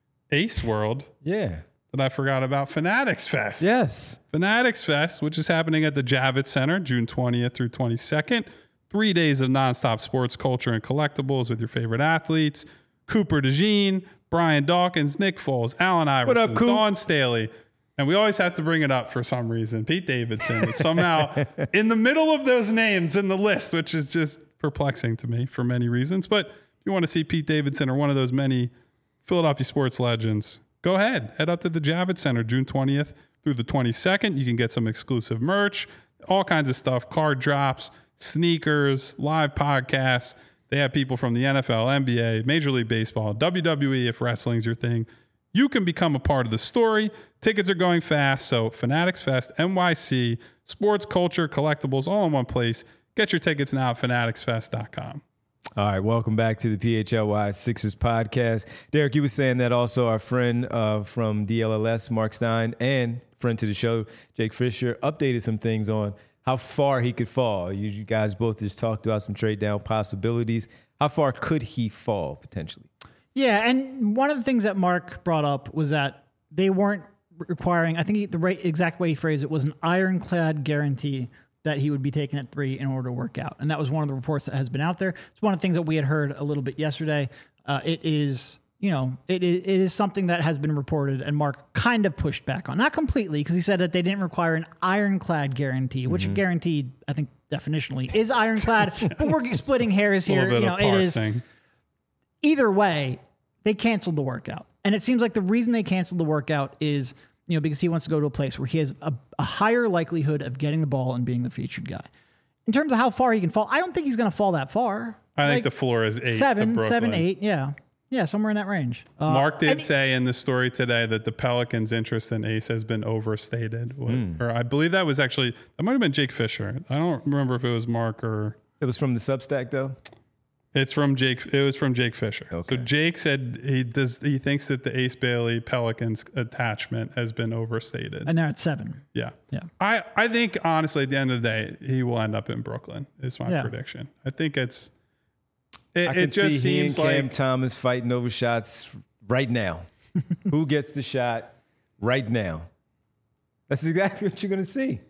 Speaker 3: Ace World.
Speaker 1: Yeah.
Speaker 3: That I forgot about Fanatics Fest.
Speaker 1: Yes.
Speaker 3: Fanatics Fest, which is happening at the Javits Center, June twentieth through twenty-second. Three days of nonstop sports, culture, and collectibles with your favorite athletes. Cooper DeJean, Brian Dawkins, Nick Foles, Allen Iverson, what up, Dawn Staley. And we always have to bring it up for some reason. Pete Davidson is somehow in the middle of those names in the list, which is just perplexing to me for many reasons. But if you want to see Pete Davidson or one of those many Philadelphia sports legends, go ahead. Head up to the Javits Center, June twentieth through the twenty-second. You can get some exclusive merch, all kinds of stuff, card drops, sneakers, live podcasts. They have people from the N F L, N B A, Major League Baseball, W W E if wrestling's your thing. You can become a part of the story. Tickets are going fast, so Fanatics Fest, N Y C, sports, culture, collectibles, all in one place. Get your tickets now at fanatics fest dot com.
Speaker 1: All right, welcome back to the P H L Y Sixers podcast. Derek, you were saying that also our friend uh, from D L L S, Mark Stein, and friend to the show, Jake Fisher, updated some things on how far he could fall. You, you guys both just talked about some trade down possibilities. How far could he fall potentially?
Speaker 2: Yeah, and one of the things that Mark brought up was that they weren't requiring, I think he, the right exact way he phrased it was an ironclad guarantee that he would be taken at three in order to work out. And that was one of the reports that has been out there. It's one of the things that we had heard a little bit yesterday. Uh, it is, you know, it is, it is something that has been reported and Mark kind of pushed back on. Not completely, because he said that they didn't require an ironclad guarantee, which mm-hmm. a guarantee, I think, definitionally is ironclad. yes. But we're splitting hairs here. You know, it is. Either way, they canceled the workout. And it seems like the reason they canceled the workout is, you know, because he wants to go to a place where he has a, a higher likelihood of getting the ball and being the featured guy. In terms of how far he can fall, I don't think he's going to fall that far.
Speaker 3: I
Speaker 2: like
Speaker 3: think the floor is eight.
Speaker 2: Seven, seven, eight. Yeah. Yeah, somewhere in that range. Uh,
Speaker 3: Mark did say in the story today that the Pelicans' interest in Ace has been overstated. Mm. Or I believe that was actually, that might have been Jake Fisher. I don't remember if it was Mark or.
Speaker 1: It was from the Substack, though?
Speaker 3: It's from Jake. It was from Jake Fisher.
Speaker 1: Okay.
Speaker 3: So Jake said he does. He thinks that the Ace Bailey Pelicans attachment has been overstated.
Speaker 2: And they're at seven.
Speaker 3: Yeah.
Speaker 2: Yeah.
Speaker 3: I, I think honestly, at the end of the day, he will end up in Brooklyn. Is my
Speaker 2: Yeah.
Speaker 3: prediction. I think it's. It,
Speaker 1: I
Speaker 3: it
Speaker 1: can
Speaker 3: just
Speaker 1: see he and
Speaker 3: seems
Speaker 1: Cam
Speaker 3: like
Speaker 1: Thomas fighting over shots right now. Who gets the shot right now? That's exactly what you're going to see.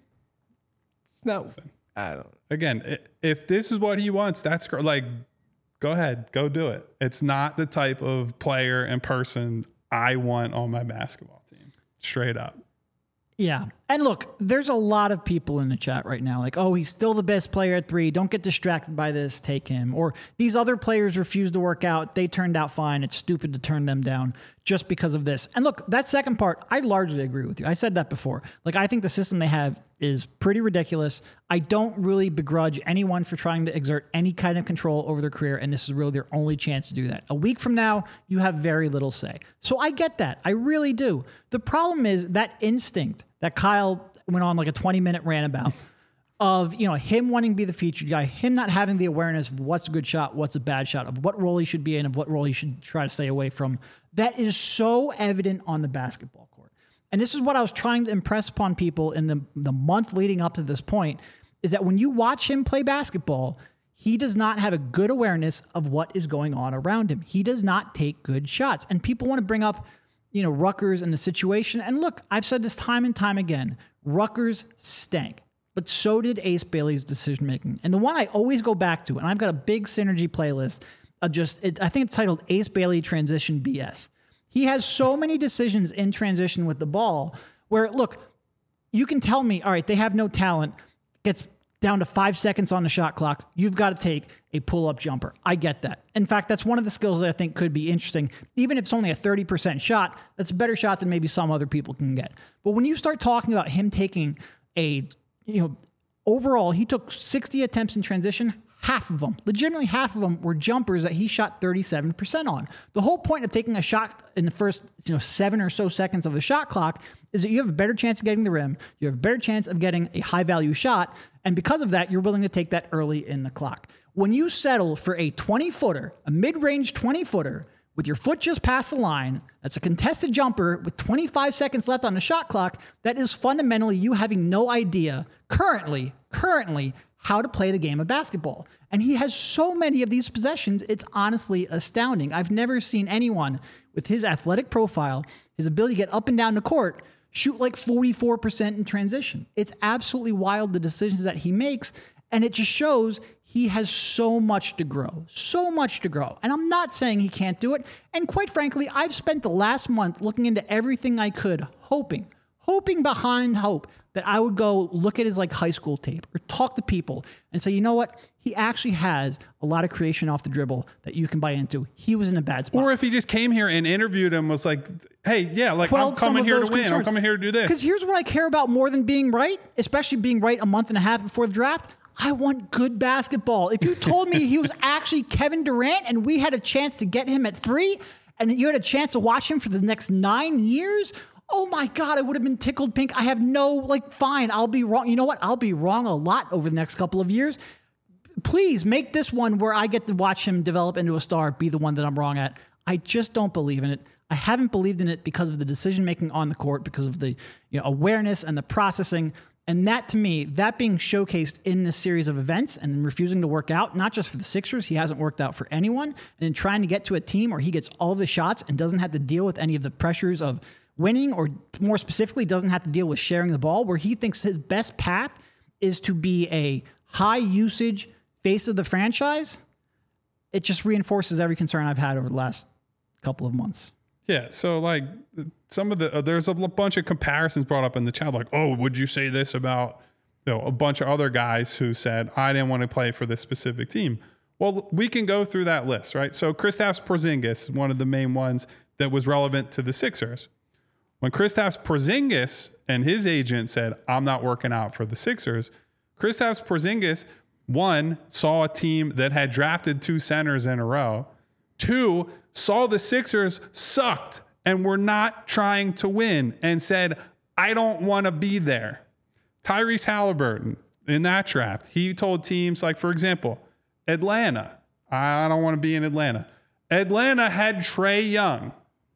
Speaker 1: It's not. I don't.
Speaker 3: again, i- if this is what he wants, that's gr- like, go ahead, go do it. It's not the type of player and person I want on my basketball team. Straight up.
Speaker 2: Yeah. And look, there's a lot of people in the chat right now like, oh, he's still the best player at three. Don't get distracted by this. Take him. Or these other players refuse to work out. They turned out fine. It's stupid to turn them down just because of this. And look, that second part, I largely agree with you. I said that before. Like, I think the system they have is pretty ridiculous. I don't really begrudge anyone for trying to exert any kind of control over their career, and this is really their only chance to do that. A week from now, you have very little say. So I get that. I really do. The problem is that instinct that Kyle went on like a twenty minute rant about of, you know, him wanting to be the featured guy, him not having the awareness of what's a good shot, what's a bad shot, of what role he should be in, of what role he should try to stay away from. That is so evident on the basketball court. And this is what I was trying to impress upon people in the, the month leading up to this point, is that when you watch him play basketball, he does not have a good awareness of what is going on around him. He does not take good shots. And people want to bring up, you know, Rutgers and the situation. And look, I've said this time and time again, Rutgers stank, but so did Ace Bailey's decision-making. And the one I always go back to, and I've got a big Synergy playlist of just, it, I think it's titled Ace Bailey Transition B S. He has so many decisions in transition with the ball where, look, you can tell me, all right, they have no talent, gets down to five seconds on the shot clock. You've got to take a pull-up jumper. I get that. In fact, that's one of the skills that I think could be interesting. Even if it's only a thirty percent shot, that's a better shot than maybe some other people can get. But when you start talking about him taking a, you know, overall, he took sixty attempts in transition. Half of them, legitimately half of them, were jumpers that he shot thirty-seven percent on. The whole point of taking a shot in the first, you know, seven or so seconds of the shot clock is that you have a better chance of getting the rim. You have a better chance of getting a high value shot. And because of that, you're willing to take that early in the clock. When you settle for a twenty footer, a mid-range twenty footer with your foot just past the line, that's a contested jumper with twenty-five seconds left on the shot clock, that is fundamentally you having no idea currently, currently, how to play the game of basketball. And he has so many of these possessions, it's honestly astounding. I've never seen anyone with his athletic profile, his ability to get up and down the court, shoot like forty-four percent in transition. It's absolutely wild, the decisions that he makes. And it just shows he has so much to grow, so much to grow. And I'm not saying he can't do it. And quite frankly, I've spent the last month looking into everything I could, hoping, hoping behind hope that I would go look at his like high school tape or talk to people and say, you know what? He actually has a lot of creation off the dribble that you can buy into. He was in a bad spot.
Speaker 3: Or if he just came here and interviewed him, was like, hey, yeah, like
Speaker 2: Quelled
Speaker 3: I'm
Speaker 2: some
Speaker 3: coming
Speaker 2: of
Speaker 3: here to
Speaker 2: those
Speaker 3: win. I'm
Speaker 2: concerns.
Speaker 3: coming here to do this.
Speaker 2: Because here's what I care about more than being right, especially being right a month and a half before the draft. I want good basketball. If you told me he was actually Kevin Durant and we had a chance to get him at three and you had a chance to watch him for the next nine years, oh my God, I would have been tickled pink. I have no, like, fine, I'll be wrong. You know what? I'll be wrong a lot over the next couple of years. Please make this one where I get to watch him develop into a star, be the one that I'm wrong at. I just don't believe in it. I haven't believed in it because of the decision-making on the court, because of the, you know, awareness and the processing. And that, to me, that being showcased in this series of events and refusing to work out, not just for the Sixers, he hasn't worked out for anyone, and in trying to get to a team where he gets all the shots and doesn't have to deal with any of the pressures of winning, or more specifically, doesn't have to deal with sharing the ball, where he thinks his best path is to be a high-usage face of the franchise. It just reinforces every concern I've had over the last couple of months.
Speaker 3: Yeah, so like some of the uh, there's a bunch of comparisons brought up in the chat, like, oh, would you say this about, you know, a bunch of other guys who said I didn't want to play for this specific team? Well, we can go through that list, right? So Kristaps Porzingis, one of the main ones that was relevant to the Sixers. When Kristaps Porzingis and his agent said, I'm not working out for the Sixers, Kristaps Porzingis, one, saw a team that had drafted two centers in a row. Two, saw the Sixers sucked and were not trying to win and said, I don't want to be there. Tyrese Halliburton, in that draft, he told teams like, for example, Atlanta, I don't want to be in Atlanta. Atlanta had Trae Young.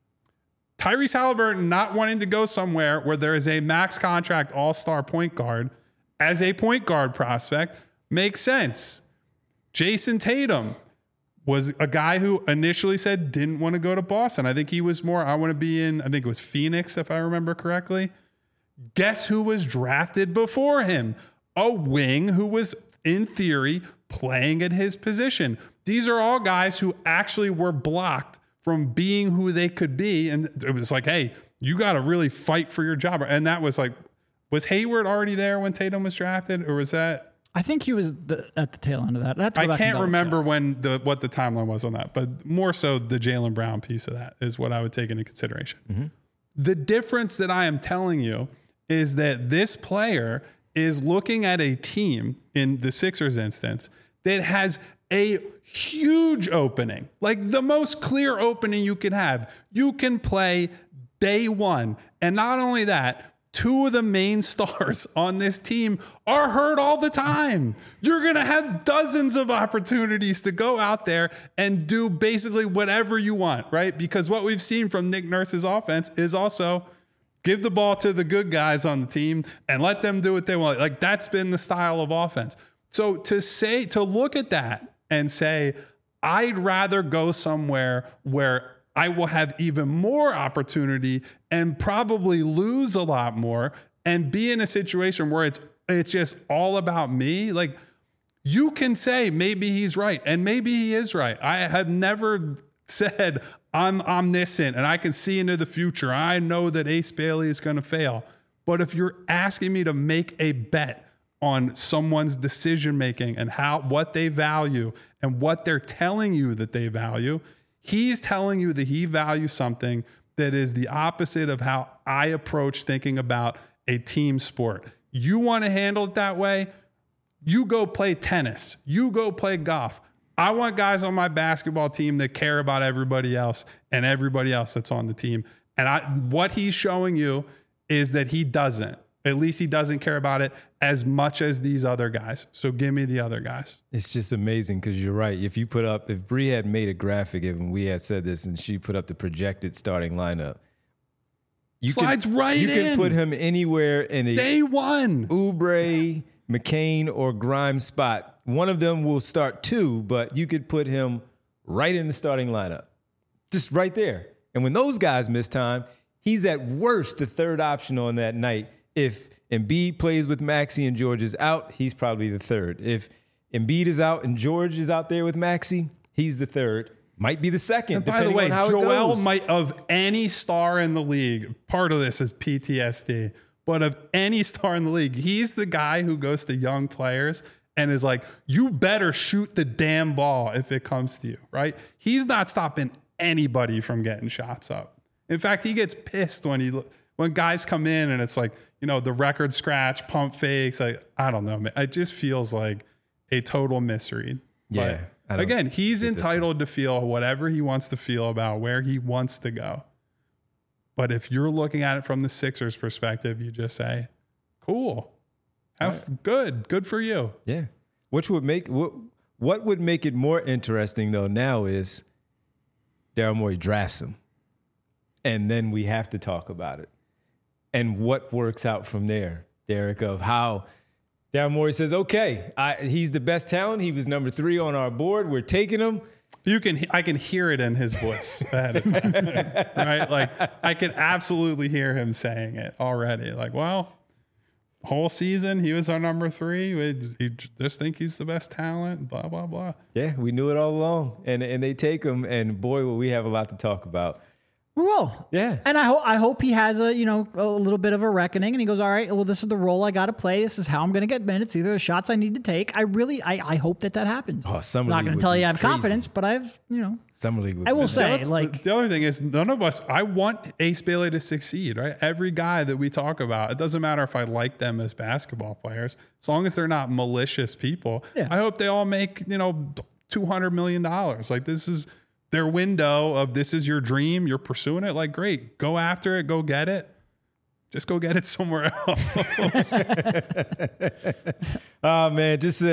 Speaker 3: Tyrese Halliburton not wanting to go somewhere where there is a max contract all-star point guard as a point guard prospect makes sense. Jason Tatum was a guy who initially said didn't want to go to Boston. I think he was more, I want to be in, I think it was Phoenix, if I remember correctly. Guess who was drafted before him? A wing who was, in theory, playing at his position. These are all guys who actually were blocked from being who they could be. And it was like, hey, you got to really fight for your job. And that was like, was Hayward already there when Tatum was drafted? Or was that?
Speaker 2: I think he was the, at the tail end of that. I,
Speaker 3: I can't remember check. when the what the timeline was on that, but more so the Jaylen Brown piece of that is what I would take into consideration. Mm-hmm. The difference that I am telling you is that this player is looking at a team, in the Sixers instance, that has a huge opening, like the most clear opening you can have. You can play day one. And not only that, two of the main stars on this team are hurt all the time. You're going to have dozens of opportunities to go out there and do basically whatever you want, right? Because what we've seen from Nick Nurse's offense is also give the ball to the good guys on the team and let them do what they want. Like, that's been the style of offense. So to say, to look at that and say, I'd rather go somewhere where I will have even more opportunity and probably lose a lot more and be in a situation where it's it's just all about me. Like, you can say maybe he's right, and maybe he is right. I have never said I'm omniscient and I can see into the future. I know that Ace Bailey is going to fail. But if you're asking me to make a bet on someone's decision making and how what they value and what they're telling you that they value, he's telling you that he values something that is the opposite of how I approach thinking about a team sport. You want to handle it that way? You go play tennis. You go play golf. I want guys on my basketball team that care about everybody else and everybody else that's on the team. And I, what he's showing you is that he doesn't. At least he doesn't care about it as much as these other guys. So give me the other guys.
Speaker 1: It's just amazing because you're right. If you put up, if Bree had made a graphic and we had said this and she put up the projected starting lineup, you
Speaker 3: slides
Speaker 1: could,
Speaker 3: right
Speaker 1: you
Speaker 3: in.
Speaker 1: You can put him anywhere in a
Speaker 3: day one
Speaker 1: Oubre, McCain, or Grimes spot. One of them will start two, but you could put him right in the starting lineup, just right there. And when those guys miss time, he's at worst the third option on that night. If Embiid plays with Maxey and George is out, he's probably the third. If Embiid is out and George is out there with Maxey, he's the third. Might be the second.
Speaker 3: And by the way, Joel might, of any star in the league, part of this is P T S D, but of any star in the league, he's the guy who goes to young players and is like, you better shoot the damn ball if it comes to you, right? He's not stopping anybody from getting shots up. In fact, he gets pissed when he when guys come in and it's like, you know, the record scratch, pump fakes. Like, I don't know, man. It just feels like a total misread.
Speaker 1: Yeah.
Speaker 3: But again, he's entitled to feel whatever he wants to feel about where he wants to go. But if you're looking at it from the Sixers perspective, you just say, cool. Have right. good. Good for you.
Speaker 1: Yeah. Which would make what what would make it more interesting though now is Daryl Morey drafts him. And then we have to talk about it. And what works out from there, Derek, of how Daryl Morey says, okay, I, he's the best talent. He was number three on our board. We're taking him.
Speaker 3: You can, I can hear it in his voice ahead of time, right? Like, I can absolutely hear him saying it already. Like, well, whole season he was our number three. We, we just think he's the best talent. Blah blah blah.
Speaker 1: Yeah, we knew it all along, and and they take him, and boy, will we have a lot to talk about.
Speaker 2: We will.
Speaker 1: Yeah.
Speaker 2: And I hope I hope he has a, you know, a little bit of a reckoning and he goes, all right, well, this is the role I got to play. This is how I'm going to get minutes. These are the shots I need to take. I really, I, I hope that that happens.
Speaker 1: Oh,
Speaker 2: I'm not going to tell you I have
Speaker 1: crazy.
Speaker 2: confidence, but I've, you know.
Speaker 1: Summer League would
Speaker 2: I will
Speaker 1: be
Speaker 2: say,
Speaker 3: the
Speaker 2: like.
Speaker 3: The other thing is none of us, I want Ace Bailey to succeed, right? Every guy that we talk about, it doesn't matter if I like them as basketball players, as long as they're not malicious people.
Speaker 2: Yeah.
Speaker 3: I hope they all make, you know, two hundred million dollars. Like, this is their window of this is your dream. You're pursuing it. Like, great, go after it. Go get it. Just go get it somewhere else.
Speaker 1: Oh man, just a,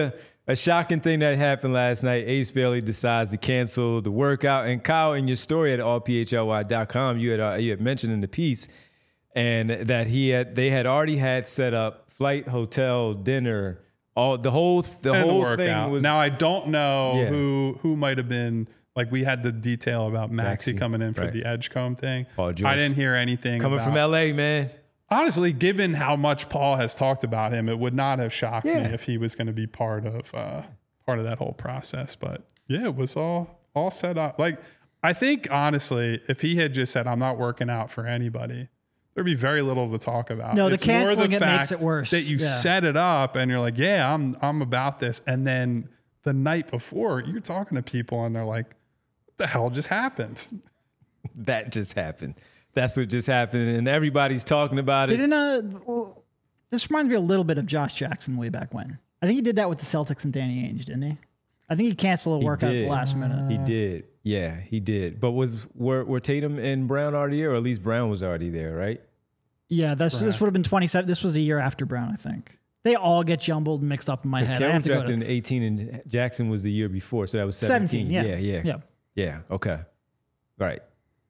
Speaker 1: a shocking thing that happened last night. Ace Bailey decides to cancel the workout. And Kyle, in your story at all p h l y dot com, you had uh, you had mentioned in the piece, and that he had they had already had set up flight, hotel, dinner, all the whole the
Speaker 3: and
Speaker 1: whole
Speaker 3: the workout.
Speaker 1: thing was.
Speaker 3: Now I don't know
Speaker 1: Yeah.
Speaker 3: who who might have been. Like we had the detail about Maxie,
Speaker 1: Maxie,
Speaker 3: coming in for
Speaker 1: right.
Speaker 3: the Edgecombe thing.
Speaker 1: Paul George.
Speaker 3: I didn't hear anything
Speaker 1: Coming
Speaker 3: about,
Speaker 1: from L A, man.
Speaker 3: Honestly, given how much Paul has talked about him, it would not have shocked
Speaker 1: Yeah.
Speaker 3: me if he was going to be part of uh, part of that whole process. But yeah, it was all all set up. Like I think honestly, if he had just said, "I'm not working out for anybody," there'd be very little to talk about.
Speaker 2: No, the
Speaker 3: It's more
Speaker 2: canceling it
Speaker 3: fact
Speaker 2: makes it worse.
Speaker 3: That you
Speaker 2: Yeah.
Speaker 3: set it up and you're like, "Yeah, I'm I'm about this," and then the night before, you're talking to people and they're like, "What the hell just happened?"
Speaker 1: That just happened. That's what just happened, and everybody's talking about it.
Speaker 2: Didn't uh, well, this reminds me a little bit of Josh Jackson way back when. I think he did that with the Celtics and Danny Ainge, didn't he? I think he canceled a
Speaker 1: He
Speaker 2: workout at
Speaker 1: did.
Speaker 2: the last minute.
Speaker 1: He did. Yeah, he did. But was were, were Tatum and Brown already there, or at least Brown was already there, right?
Speaker 2: Yeah, that's, this would have been twenty-seven. This was a year after Brown, I think. They all get jumbled and mixed up in my head. I
Speaker 1: Cameron
Speaker 2: have to go
Speaker 1: drafted
Speaker 2: to
Speaker 1: in eighteen, and Jackson was the year before, so that was seventeen.
Speaker 2: seventeen. Yeah,
Speaker 1: yeah, yeah,
Speaker 2: yeah.
Speaker 1: yeah. Okay, right,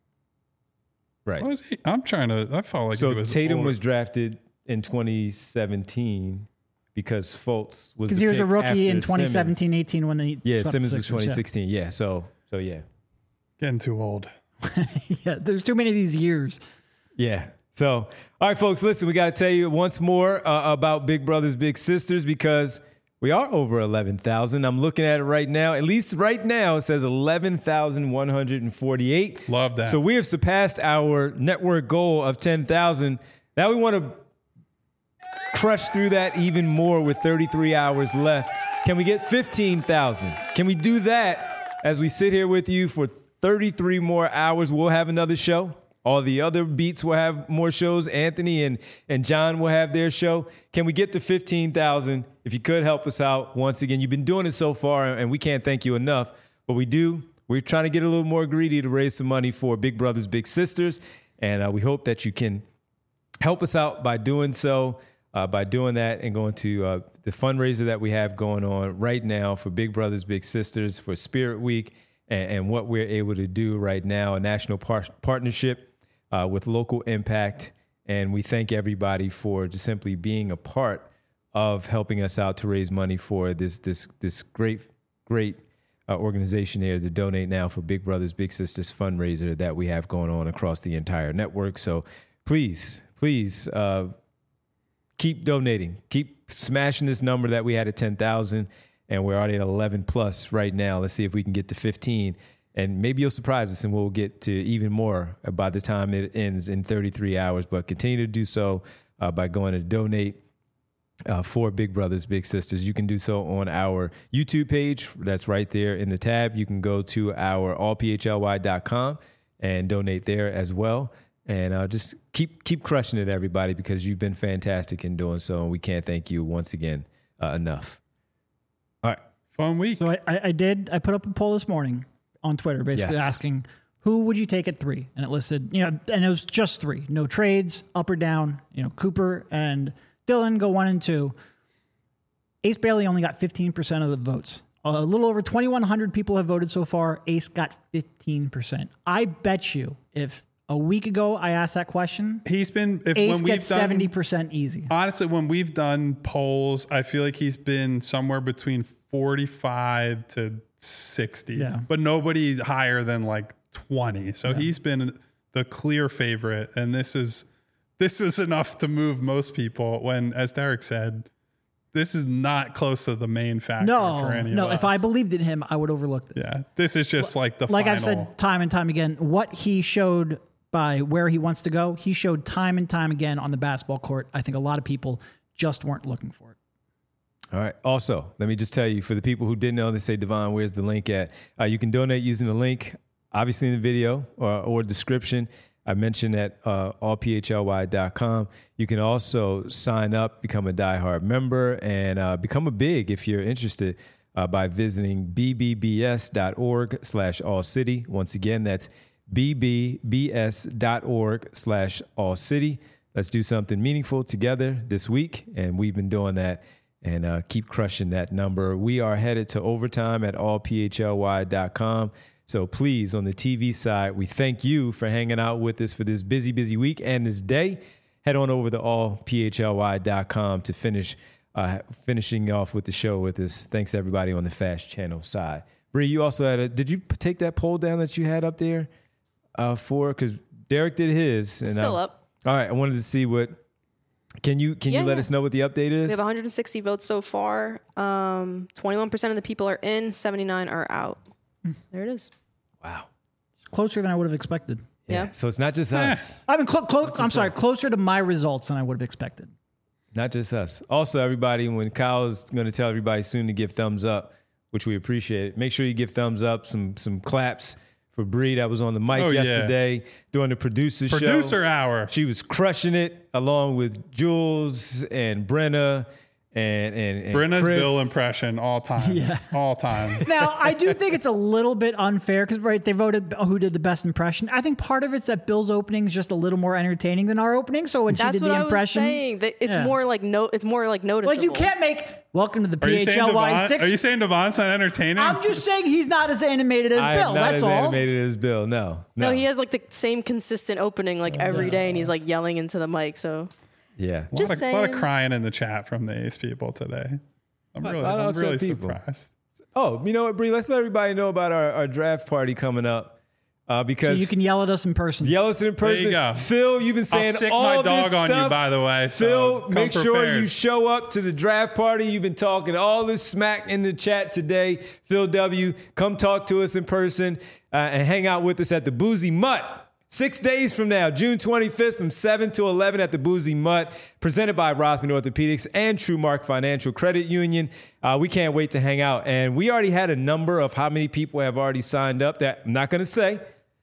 Speaker 1: right.
Speaker 3: What was he? I'm trying to. I felt like
Speaker 1: So
Speaker 3: he was
Speaker 1: Tatum
Speaker 3: older.
Speaker 1: was drafted in twenty seventeen because Fultz was
Speaker 2: Because
Speaker 1: the
Speaker 2: he was a
Speaker 1: pick
Speaker 2: rookie in
Speaker 1: after
Speaker 2: twenty
Speaker 1: Simmons.
Speaker 2: seventeen eighteen when he
Speaker 1: Yeah,
Speaker 2: swept the
Speaker 1: Simmons was
Speaker 2: Sixers,
Speaker 1: twenty sixteen. Yeah, so so yeah,
Speaker 3: getting too old.
Speaker 2: Yeah. yeah, there's too many of these years.
Speaker 1: yeah. So, all right, folks, listen, we got to tell you once more uh, about Big Brothers Big Sisters, because we are over eleven thousand. I'm looking at it right now. At least right now, it says eleven thousand one hundred forty-eight.
Speaker 3: Love that.
Speaker 1: So we have surpassed our network goal of ten thousand. Now we want to crush through that even more with thirty-three hours left. Can we get fifteen thousand? Can we do that as we sit here with you for thirty-three more hours? We'll have another show. All the other beats will have more shows. Anthony and, and John will have their show. Can we get to fifteen thousand? If you could help us out, once again, you've been doing it so far, and we can't thank you enough. But we do. We're trying to get a little more greedy to raise some money for Big Brothers Big Sisters. And uh, we hope that you can help us out by doing so, uh, by doing that and going to uh, the fundraiser that we have going on right now for Big Brothers Big Sisters for Spirit Week, and, and what we're able to do right now, a national par- partnership uh, with Local Impact. And we thank everybody for just simply being a part of helping us out to raise money for this this this great, great uh, organization here to donate now for Big Brothers Big Sisters fundraiser that we have going on across the entire network. So please, please uh, keep donating. Keep smashing this number that we had at ten thousand, and we're already at eleven plus right now. Let's see if we can get to fifteen, and maybe you'll surprise us and we'll get to even more by the time it ends in thirty-three hours. But continue to do so uh, by going to donate uh, for Big Brothers Big Sisters. You can do so on our YouTube page. That's right there in the tab. You can go to our all p h l y dot com and donate there as well. And uh, just keep keep crushing it, everybody, because you've been fantastic in doing so, and we can't thank you once again uh, enough. All right.
Speaker 3: Fun week.
Speaker 2: So I, I, I did, I put up a poll this morning on Twitter, basically
Speaker 1: Yes.
Speaker 2: asking, who would you take at three? And it listed, you know, and it was just three, no trades, up or down. You know, Cooper and Dylan go one and two. Ace Bailey only got fifteen percent of the votes. A little over twenty-one hundred people have voted so far. Ace got fifteen percent. I bet you if a week ago I asked that question,
Speaker 3: He's been if,
Speaker 2: Ace
Speaker 3: when we've
Speaker 2: gets
Speaker 3: done
Speaker 2: seventy percent easy.
Speaker 3: honestly when we've done polls, I feel like he's been somewhere between forty-five to sixty,
Speaker 2: Yeah.
Speaker 3: but nobody higher than like twenty. So he's been the clear favorite, and this is this was enough to move most people. When, as Derek said, this is not close to the main factor
Speaker 2: No,
Speaker 3: for any
Speaker 2: no.
Speaker 3: of us.
Speaker 2: If I believed in him, I would overlook this.
Speaker 3: yeah, this is just like the
Speaker 2: Like
Speaker 3: final.
Speaker 2: I've said time and time again, what he showed by where he wants to go, he showed time and time again on the basketball court. I think a lot of people just weren't looking for it.
Speaker 1: All right. Also, let me just tell you, for the people who didn't know, they say, Devon, where's the link at? Uh, you can donate using the link, obviously in the video or, or description. I mentioned at uh, all p h l y dot com. You can also sign up, become a diehard member, and uh, become a big if you're interested uh, by visiting b b b s dot org slash all city. Once again, that's b b b s dot org slash all city. Let's do something meaningful together this week, and we've been doing that and uh, keep crushing that number. We are headed to overtime at all p h l y dot com. So please, on the T V side, we thank you for hanging out with us for this busy, busy week and this day. Head on over to all p h l y dot com to finish uh, finishing off with the show with us. Thanks to everybody on the Fast Channel side. Bree, you also had a, did you take that poll down that you had up there uh, for, because Derek did his. And
Speaker 4: Still
Speaker 1: I,
Speaker 4: up.
Speaker 1: All right. I wanted to see what, can you, can
Speaker 4: Yeah,
Speaker 1: you let
Speaker 4: yeah.
Speaker 1: us know what the update is?
Speaker 4: We have one hundred sixty votes so far. Um, twenty-one percent of the people are in, seventy-nine are out. There it is.
Speaker 1: Wow.
Speaker 2: Closer than I would have expected.
Speaker 4: Yeah.
Speaker 1: So it's not just
Speaker 3: Eh.
Speaker 1: us,
Speaker 2: I mean, clo- clo- I'm sorry,
Speaker 1: us.
Speaker 2: closer to my results than I would have expected.
Speaker 1: not just us. Also, everybody, when Kyle's going to tell everybody soon to give thumbs up, which we appreciate, make sure you give thumbs up, some, some claps for Bree that was on the mic
Speaker 3: Oh, yeah.
Speaker 1: yesterday during the producer, show.
Speaker 3: Producer hour.
Speaker 1: She was crushing it along with Jules and Brenna and, and, and
Speaker 3: Brenna's
Speaker 1: Chris.
Speaker 3: Bill impression all time.
Speaker 2: Yeah.
Speaker 3: All time.
Speaker 2: Now, I do think it's a little bit unfair because, right, they voted who did the best impression. I think part of it's that Bill's opening is just a little more entertaining than our opening. So when
Speaker 4: That's
Speaker 2: she did
Speaker 4: what
Speaker 2: the
Speaker 4: I was
Speaker 2: impression,
Speaker 4: saying. That it's
Speaker 2: Yeah.
Speaker 4: more like no, it's more like noticeable.
Speaker 2: like you can't make welcome to the
Speaker 3: Are you saying
Speaker 2: P H L Y
Speaker 3: Devon,
Speaker 2: six.
Speaker 3: are you saying Devon's not entertaining?
Speaker 2: I'm just saying he's not as animated as
Speaker 1: I am
Speaker 2: Bill.
Speaker 1: not
Speaker 2: That's
Speaker 1: as
Speaker 2: all.
Speaker 1: animated as Bill. No, no.
Speaker 4: No, he has like the same consistent opening like every day, and he's like yelling into the mic. So
Speaker 1: Yeah.
Speaker 3: a,
Speaker 4: just
Speaker 3: lot of, a lot of
Speaker 4: saying.
Speaker 3: crying in the chat from the Ace people today. I'm
Speaker 1: A
Speaker 3: really,
Speaker 1: lot of
Speaker 3: I'm
Speaker 1: upset
Speaker 3: really
Speaker 1: people.
Speaker 3: surprised.
Speaker 1: Oh, you know what, Bree? Let's let everybody know about our, our draft party coming up uh,
Speaker 2: So
Speaker 1: because
Speaker 2: you can yell at us in person.
Speaker 1: yell us in person.
Speaker 3: you go.
Speaker 1: Phil, you've been saying
Speaker 3: I'll sick
Speaker 1: all
Speaker 3: my
Speaker 1: this
Speaker 3: dog on you,
Speaker 1: stuff.
Speaker 3: by the way. so
Speaker 1: Phil,
Speaker 3: come
Speaker 1: make sure
Speaker 3: prepared.
Speaker 1: you show up to the draft party. You've been talking all this smack in the chat today. Phil W., come talk to us in person uh, and hang out with us at the Boozy Mutt. Six days from now, June twenty-fifth from seven to eleven at the Boozy Mutt, presented by Rothman Orthopedics and TrueMark Financial Credit Union. Uh, we can't wait to hang out. And we already had a number of how many people have already signed up that I'm not going to say.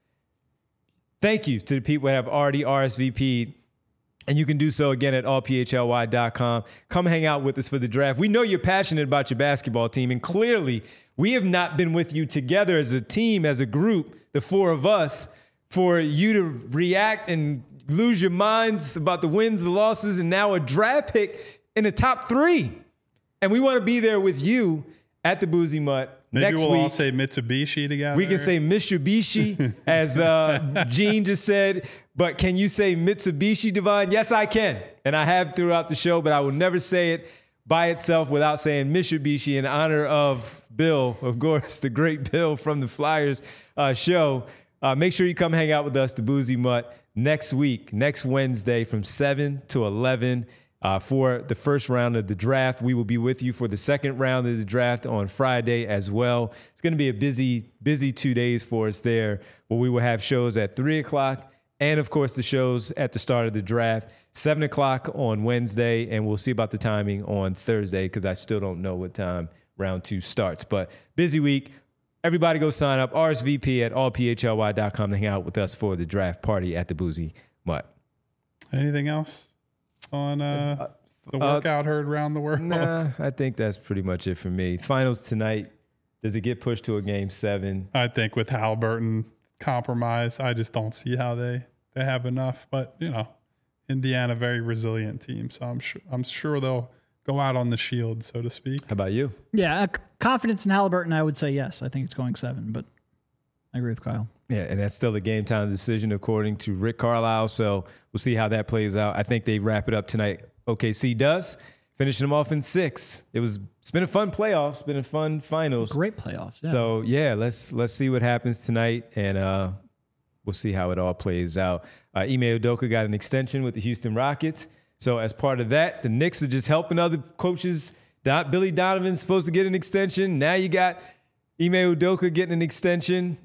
Speaker 1: Thank you to the people that have already R S V P'd. And you can do so again at all p h l y dot com. Come hang out with us for the draft. We know you're passionate about your basketball team, and clearly we have not been with you together as a team, as a group, the four of us, for you to react and lose your minds about the wins, the losses, and now a draft pick in the top three. And we want to be there with you at the Boozy Mutt
Speaker 3: Maybe
Speaker 1: next
Speaker 3: we'll
Speaker 1: week.
Speaker 3: all say Mitsubishi together.
Speaker 1: We can say Mitsubishi, as uh, Gene just said. But can you say Mitsubishi, Devon? Yes, I can. And I have throughout the show, but I will never say it by itself without saying Mitsubishi in honor of Bill, of course, the great Bill from the Flyers uh, show. Uh, make sure you come hang out with us, the Boozy Mutt, next week, next Wednesday from seven to eleven uh, for the first round of the draft. We will be with you for the second round of the draft on Friday as well. It's going to be a busy, busy two days for us there, where we will have shows at three o'clock and, of course, the shows at the start of the draft, seven o'clock on Wednesday, and we'll see about the timing on Thursday because I still don't know what time round two starts. But busy week. Everybody go sign up, R S V P at all p h l y dot com to hang out with us for the draft party at the Boozy Mutt.
Speaker 3: Anything else on uh, the workout heard around the world?
Speaker 1: Nah, I think that's pretty much it for me. Finals tonight. Does it get pushed to a game seven?
Speaker 3: I think with Halliburton compromise, I just don't see how they, they have enough. But, you know, Indiana, very resilient team. So I'm sure, I'm sure they'll go out on the shield, so to speak.
Speaker 1: How about you?
Speaker 2: Yeah, uh, confidence in Halliburton, I would say yes. I think it's going seven, but I agree with Kyle.
Speaker 1: Yeah, and that's still a game time decision according to Rick Carlisle. So we'll see how that plays out. I think they wrap it up tonight. O K C does, finishing them off in six. It was it's been a fun playoff. It's been a fun finals.
Speaker 2: Great playoffs. Yeah.
Speaker 1: So yeah, let's let's see what happens tonight, and uh, we'll see how it all plays out. Uh, Ime Udoka got an extension with the Houston Rockets. So as part of that, the Knicks are just helping other coaches. Don, Billy Donovan's supposed to get an extension. Now you got Ime Udoka getting an extension.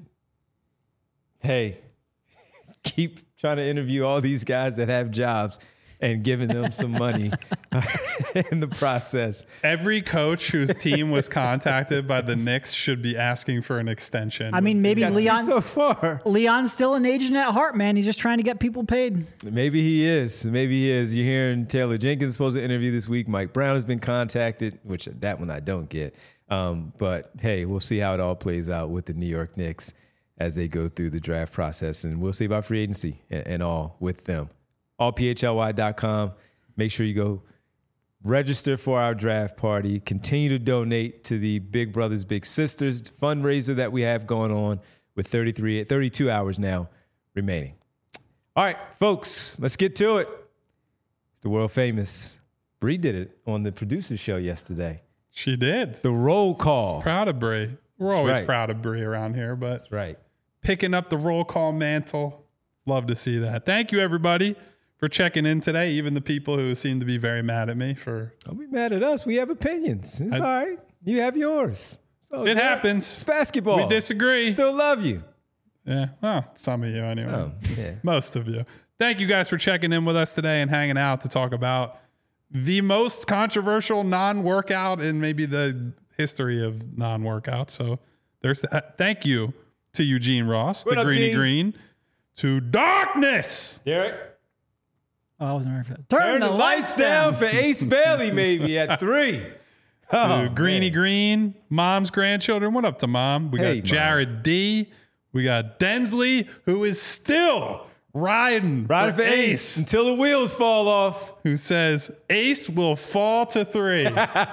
Speaker 1: Hey, keep trying to interview all these guys that have jobs and giving them some money in the process.
Speaker 3: Every coach whose team was contacted by the Knicks should be asking for an extension.
Speaker 2: I mean, maybe
Speaker 1: Got two
Speaker 2: Leon.
Speaker 1: so far.
Speaker 2: Leon's still an agent at heart, man. He's just trying to get people paid.
Speaker 1: Maybe he is. Maybe he is. You're hearing Taylor Jenkins is supposed to interview this week. Mike Brown has been contacted, which that one I don't get. Um, but hey, we'll see how it all plays out with the New York Knicks as they go through the draft process, and we'll see about free agency and, and all with them. all p h l y dot com. Make sure you go register for our draft party. Continue to donate to the Big Brothers Big Sisters fundraiser that we have going on with thirty-three, thirty-two hours now remaining. All right, folks, let's get to it. It's the world famous. Bree did it on the producer show yesterday.
Speaker 3: She did.
Speaker 1: The roll call.
Speaker 3: Proud of Bree. We're
Speaker 1: That's
Speaker 3: always
Speaker 1: right.
Speaker 3: proud of Bree around here, but
Speaker 1: That's right.
Speaker 3: picking up the roll call mantle. Love to see that. Thank you, everybody, for checking in today. Even the people who seem to be very mad at me for.
Speaker 1: Don't be mad at us. We have opinions. It's
Speaker 3: I-
Speaker 1: all right. You have yours. So
Speaker 3: It happens.
Speaker 1: It's basketball.
Speaker 3: We disagree.
Speaker 1: Still love you.
Speaker 3: Yeah, well, some of you anyway.
Speaker 1: Oh, yeah.
Speaker 3: Most of you. Thank you guys for checking in with us today and hanging out to talk about the most controversial non-workout in maybe the history of non-workout. So there's that. Thank you to Eugene Ross,
Speaker 1: What
Speaker 3: the
Speaker 1: up,
Speaker 3: Greeny
Speaker 1: Gene?
Speaker 3: Green, to Darkness.
Speaker 1: Derek,
Speaker 2: Oh, I wasn't ready for that. Turn,
Speaker 1: turn the lights down for Ace Bailey maybe at three. Oh,
Speaker 3: to Greeny
Speaker 1: man.
Speaker 3: Green, Mom's grandchildren. What up to Mom? We
Speaker 1: Hey,
Speaker 3: got Jared D. We got Densley, who is still riding,
Speaker 1: Riding for Ace until the wheels fall off.
Speaker 3: who says Ace will fall to three.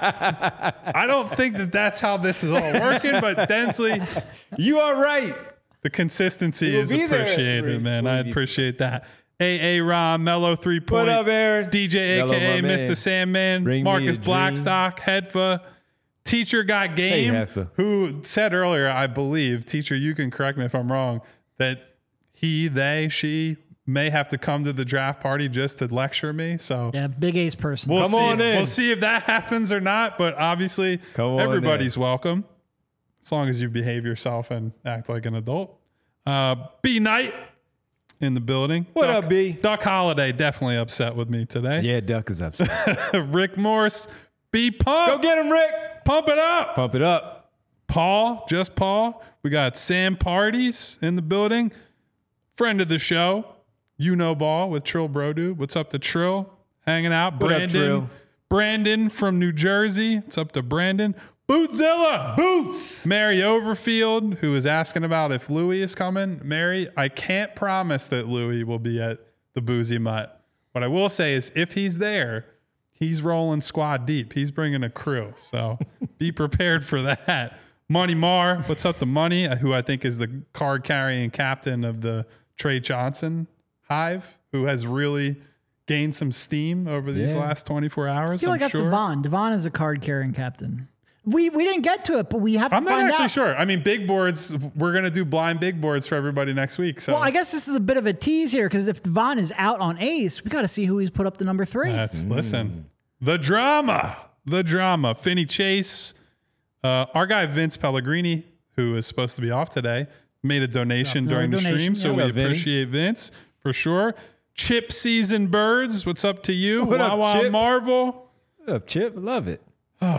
Speaker 3: I don't think that that's how this is all working, but Densley,
Speaker 1: You are right.
Speaker 3: the consistency
Speaker 1: We'll
Speaker 3: is
Speaker 1: be there at
Speaker 3: appreciated,
Speaker 1: three.
Speaker 3: man.
Speaker 1: We'll
Speaker 3: I
Speaker 1: be-
Speaker 3: appreciate that. A A Ron, Mellow three point.
Speaker 1: What up, Aaron?
Speaker 3: D J,
Speaker 1: Mellow,
Speaker 3: A K A
Speaker 1: my man.
Speaker 3: Mister Sandman,
Speaker 1: Bring me
Speaker 3: Marcus
Speaker 1: a dream.
Speaker 3: Blackstock, Hedfa, Teacher Got Game,
Speaker 1: Hedfa.
Speaker 3: who said earlier, I believe, Teacher, you can correct me if I'm wrong, that he, they, she may have to come to the draft party just to lecture me. So
Speaker 2: Yeah, big Ace person.
Speaker 3: we'll
Speaker 1: Come
Speaker 3: see.
Speaker 1: on in.
Speaker 3: We'll see if that happens or not. But obviously,
Speaker 1: Come on
Speaker 3: everybody's welcome as long as you behave yourself and act like an adult. Uh, B Knight in the building.
Speaker 1: What
Speaker 3: Duck,
Speaker 1: up, B?
Speaker 3: Duck Holiday definitely upset with me today.
Speaker 1: Yeah, Duck is upset.
Speaker 3: Rick Morse. B Pump.
Speaker 1: Go get him, Rick.
Speaker 3: Pump it up.
Speaker 1: Pump it up.
Speaker 3: Paul, just Paul. We got Sam Parties in the building. Friend of the show, You Know Ball with Trill Brodu. What's up to Trill? Hanging out.
Speaker 1: What up,
Speaker 3: Brandon.
Speaker 1: Trill?
Speaker 3: Brandon from New Jersey. What's up to Brandon? Bootzilla.
Speaker 1: Boots.
Speaker 3: Mary Overfield, who is asking about if Louie is coming. Mary, I can't promise that Louie will be at the Boozy Mutt. What I will say is if he's there, he's rolling squad deep. He's bringing a crew. So be prepared for that. Money Marr, what's up to Money, who I think is the card carrying captain of the Trey Johnson hive, who has really gained some steam over these
Speaker 1: Yeah.
Speaker 3: last twenty-four hours.
Speaker 2: I feel
Speaker 3: I'm
Speaker 2: like that's
Speaker 3: sure.
Speaker 2: Devon. Devon is a card carrying captain. We we didn't get to it, but we have to
Speaker 3: I'm not
Speaker 2: find
Speaker 3: actually
Speaker 2: out.
Speaker 3: sure. I mean, big boards, we're going to do blind big boards for everybody next week. So
Speaker 2: Well, I guess this is a bit of a tease here because if Devon is out on Ace, we got to see who he's put up the number three.
Speaker 3: That's listen. The drama. The drama. Finney Chase. Uh, our guy Vince Pellegrini, who is supposed to be off today, made a donation
Speaker 2: Yeah,
Speaker 3: during the
Speaker 2: donation,
Speaker 3: stream. So
Speaker 2: yeah.
Speaker 3: we
Speaker 1: What up, Vinny?
Speaker 3: appreciate Vince for sure. Chip Season Birds. What's up to you?
Speaker 1: What up,
Speaker 3: Wawa
Speaker 1: Chip?
Speaker 3: Marvel.
Speaker 1: What up, Chip? I love it.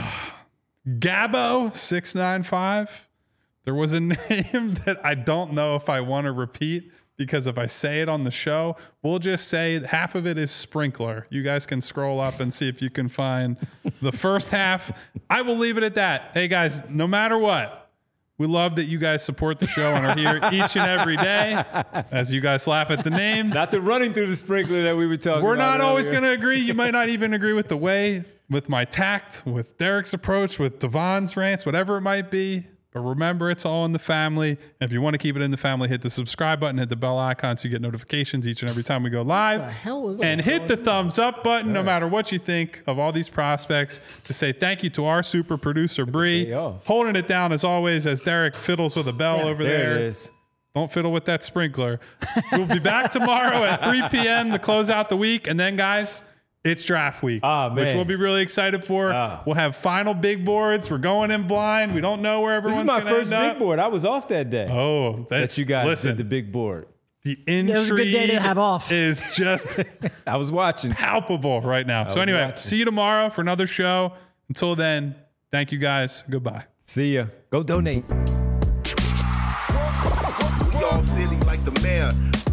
Speaker 3: Gabbo six nine five. There was a name that I don't know if I want to repeat because if I say it on the show, we'll just say half of it is Sprinkler. You guys can scroll up and see if you can find the first half. I will leave it at that. Hey guys, no matter what, we love that you guys support the show and are here each and every day as you guys laugh at the name.
Speaker 1: Not the running through the sprinkler that we were talking
Speaker 3: We're
Speaker 1: about.
Speaker 3: not always
Speaker 1: earlier.
Speaker 3: going to agree. You might not even agree with the way, with my tact, with Derek's approach, with Devon's rants, whatever it might be. But remember, it's all in the family. And if you want to keep it in the family, hit the subscribe button, hit the bell icon so you get notifications each and every time we go live.
Speaker 2: What the hell is
Speaker 3: and
Speaker 2: that?
Speaker 3: hit the thumbs up button, no matter what you think of all these prospects, to say thank you to our super producer, Bree.
Speaker 1: Day off.
Speaker 3: Holding it down as always as Derek fiddles with a bell over
Speaker 1: There
Speaker 3: there.
Speaker 1: it is.
Speaker 3: Don't fiddle with that sprinkler. We'll be back tomorrow at three p.m. to close out the week. And then, guys, it's draft week,
Speaker 1: Ah,
Speaker 3: which
Speaker 1: man.
Speaker 3: we'll be really excited for.
Speaker 1: Ah.
Speaker 3: We'll have final big boards. We're going in blind. We don't know where
Speaker 1: This
Speaker 3: everyone's
Speaker 1: is my
Speaker 3: gonna
Speaker 1: first
Speaker 3: end
Speaker 1: big
Speaker 3: up.
Speaker 1: board. I was off that day.
Speaker 3: Oh, that's
Speaker 1: that you guys
Speaker 3: listen.
Speaker 1: did the big board.
Speaker 3: The intrigue
Speaker 2: it was a good day to have off.
Speaker 3: is just
Speaker 1: I was watching.
Speaker 3: palpable right now. So
Speaker 1: was
Speaker 3: anyway,
Speaker 1: watching.
Speaker 3: see you tomorrow for another show. Until then, thank you guys. Goodbye.
Speaker 1: See ya. Go donate.
Speaker 5: We all silly like the mayor.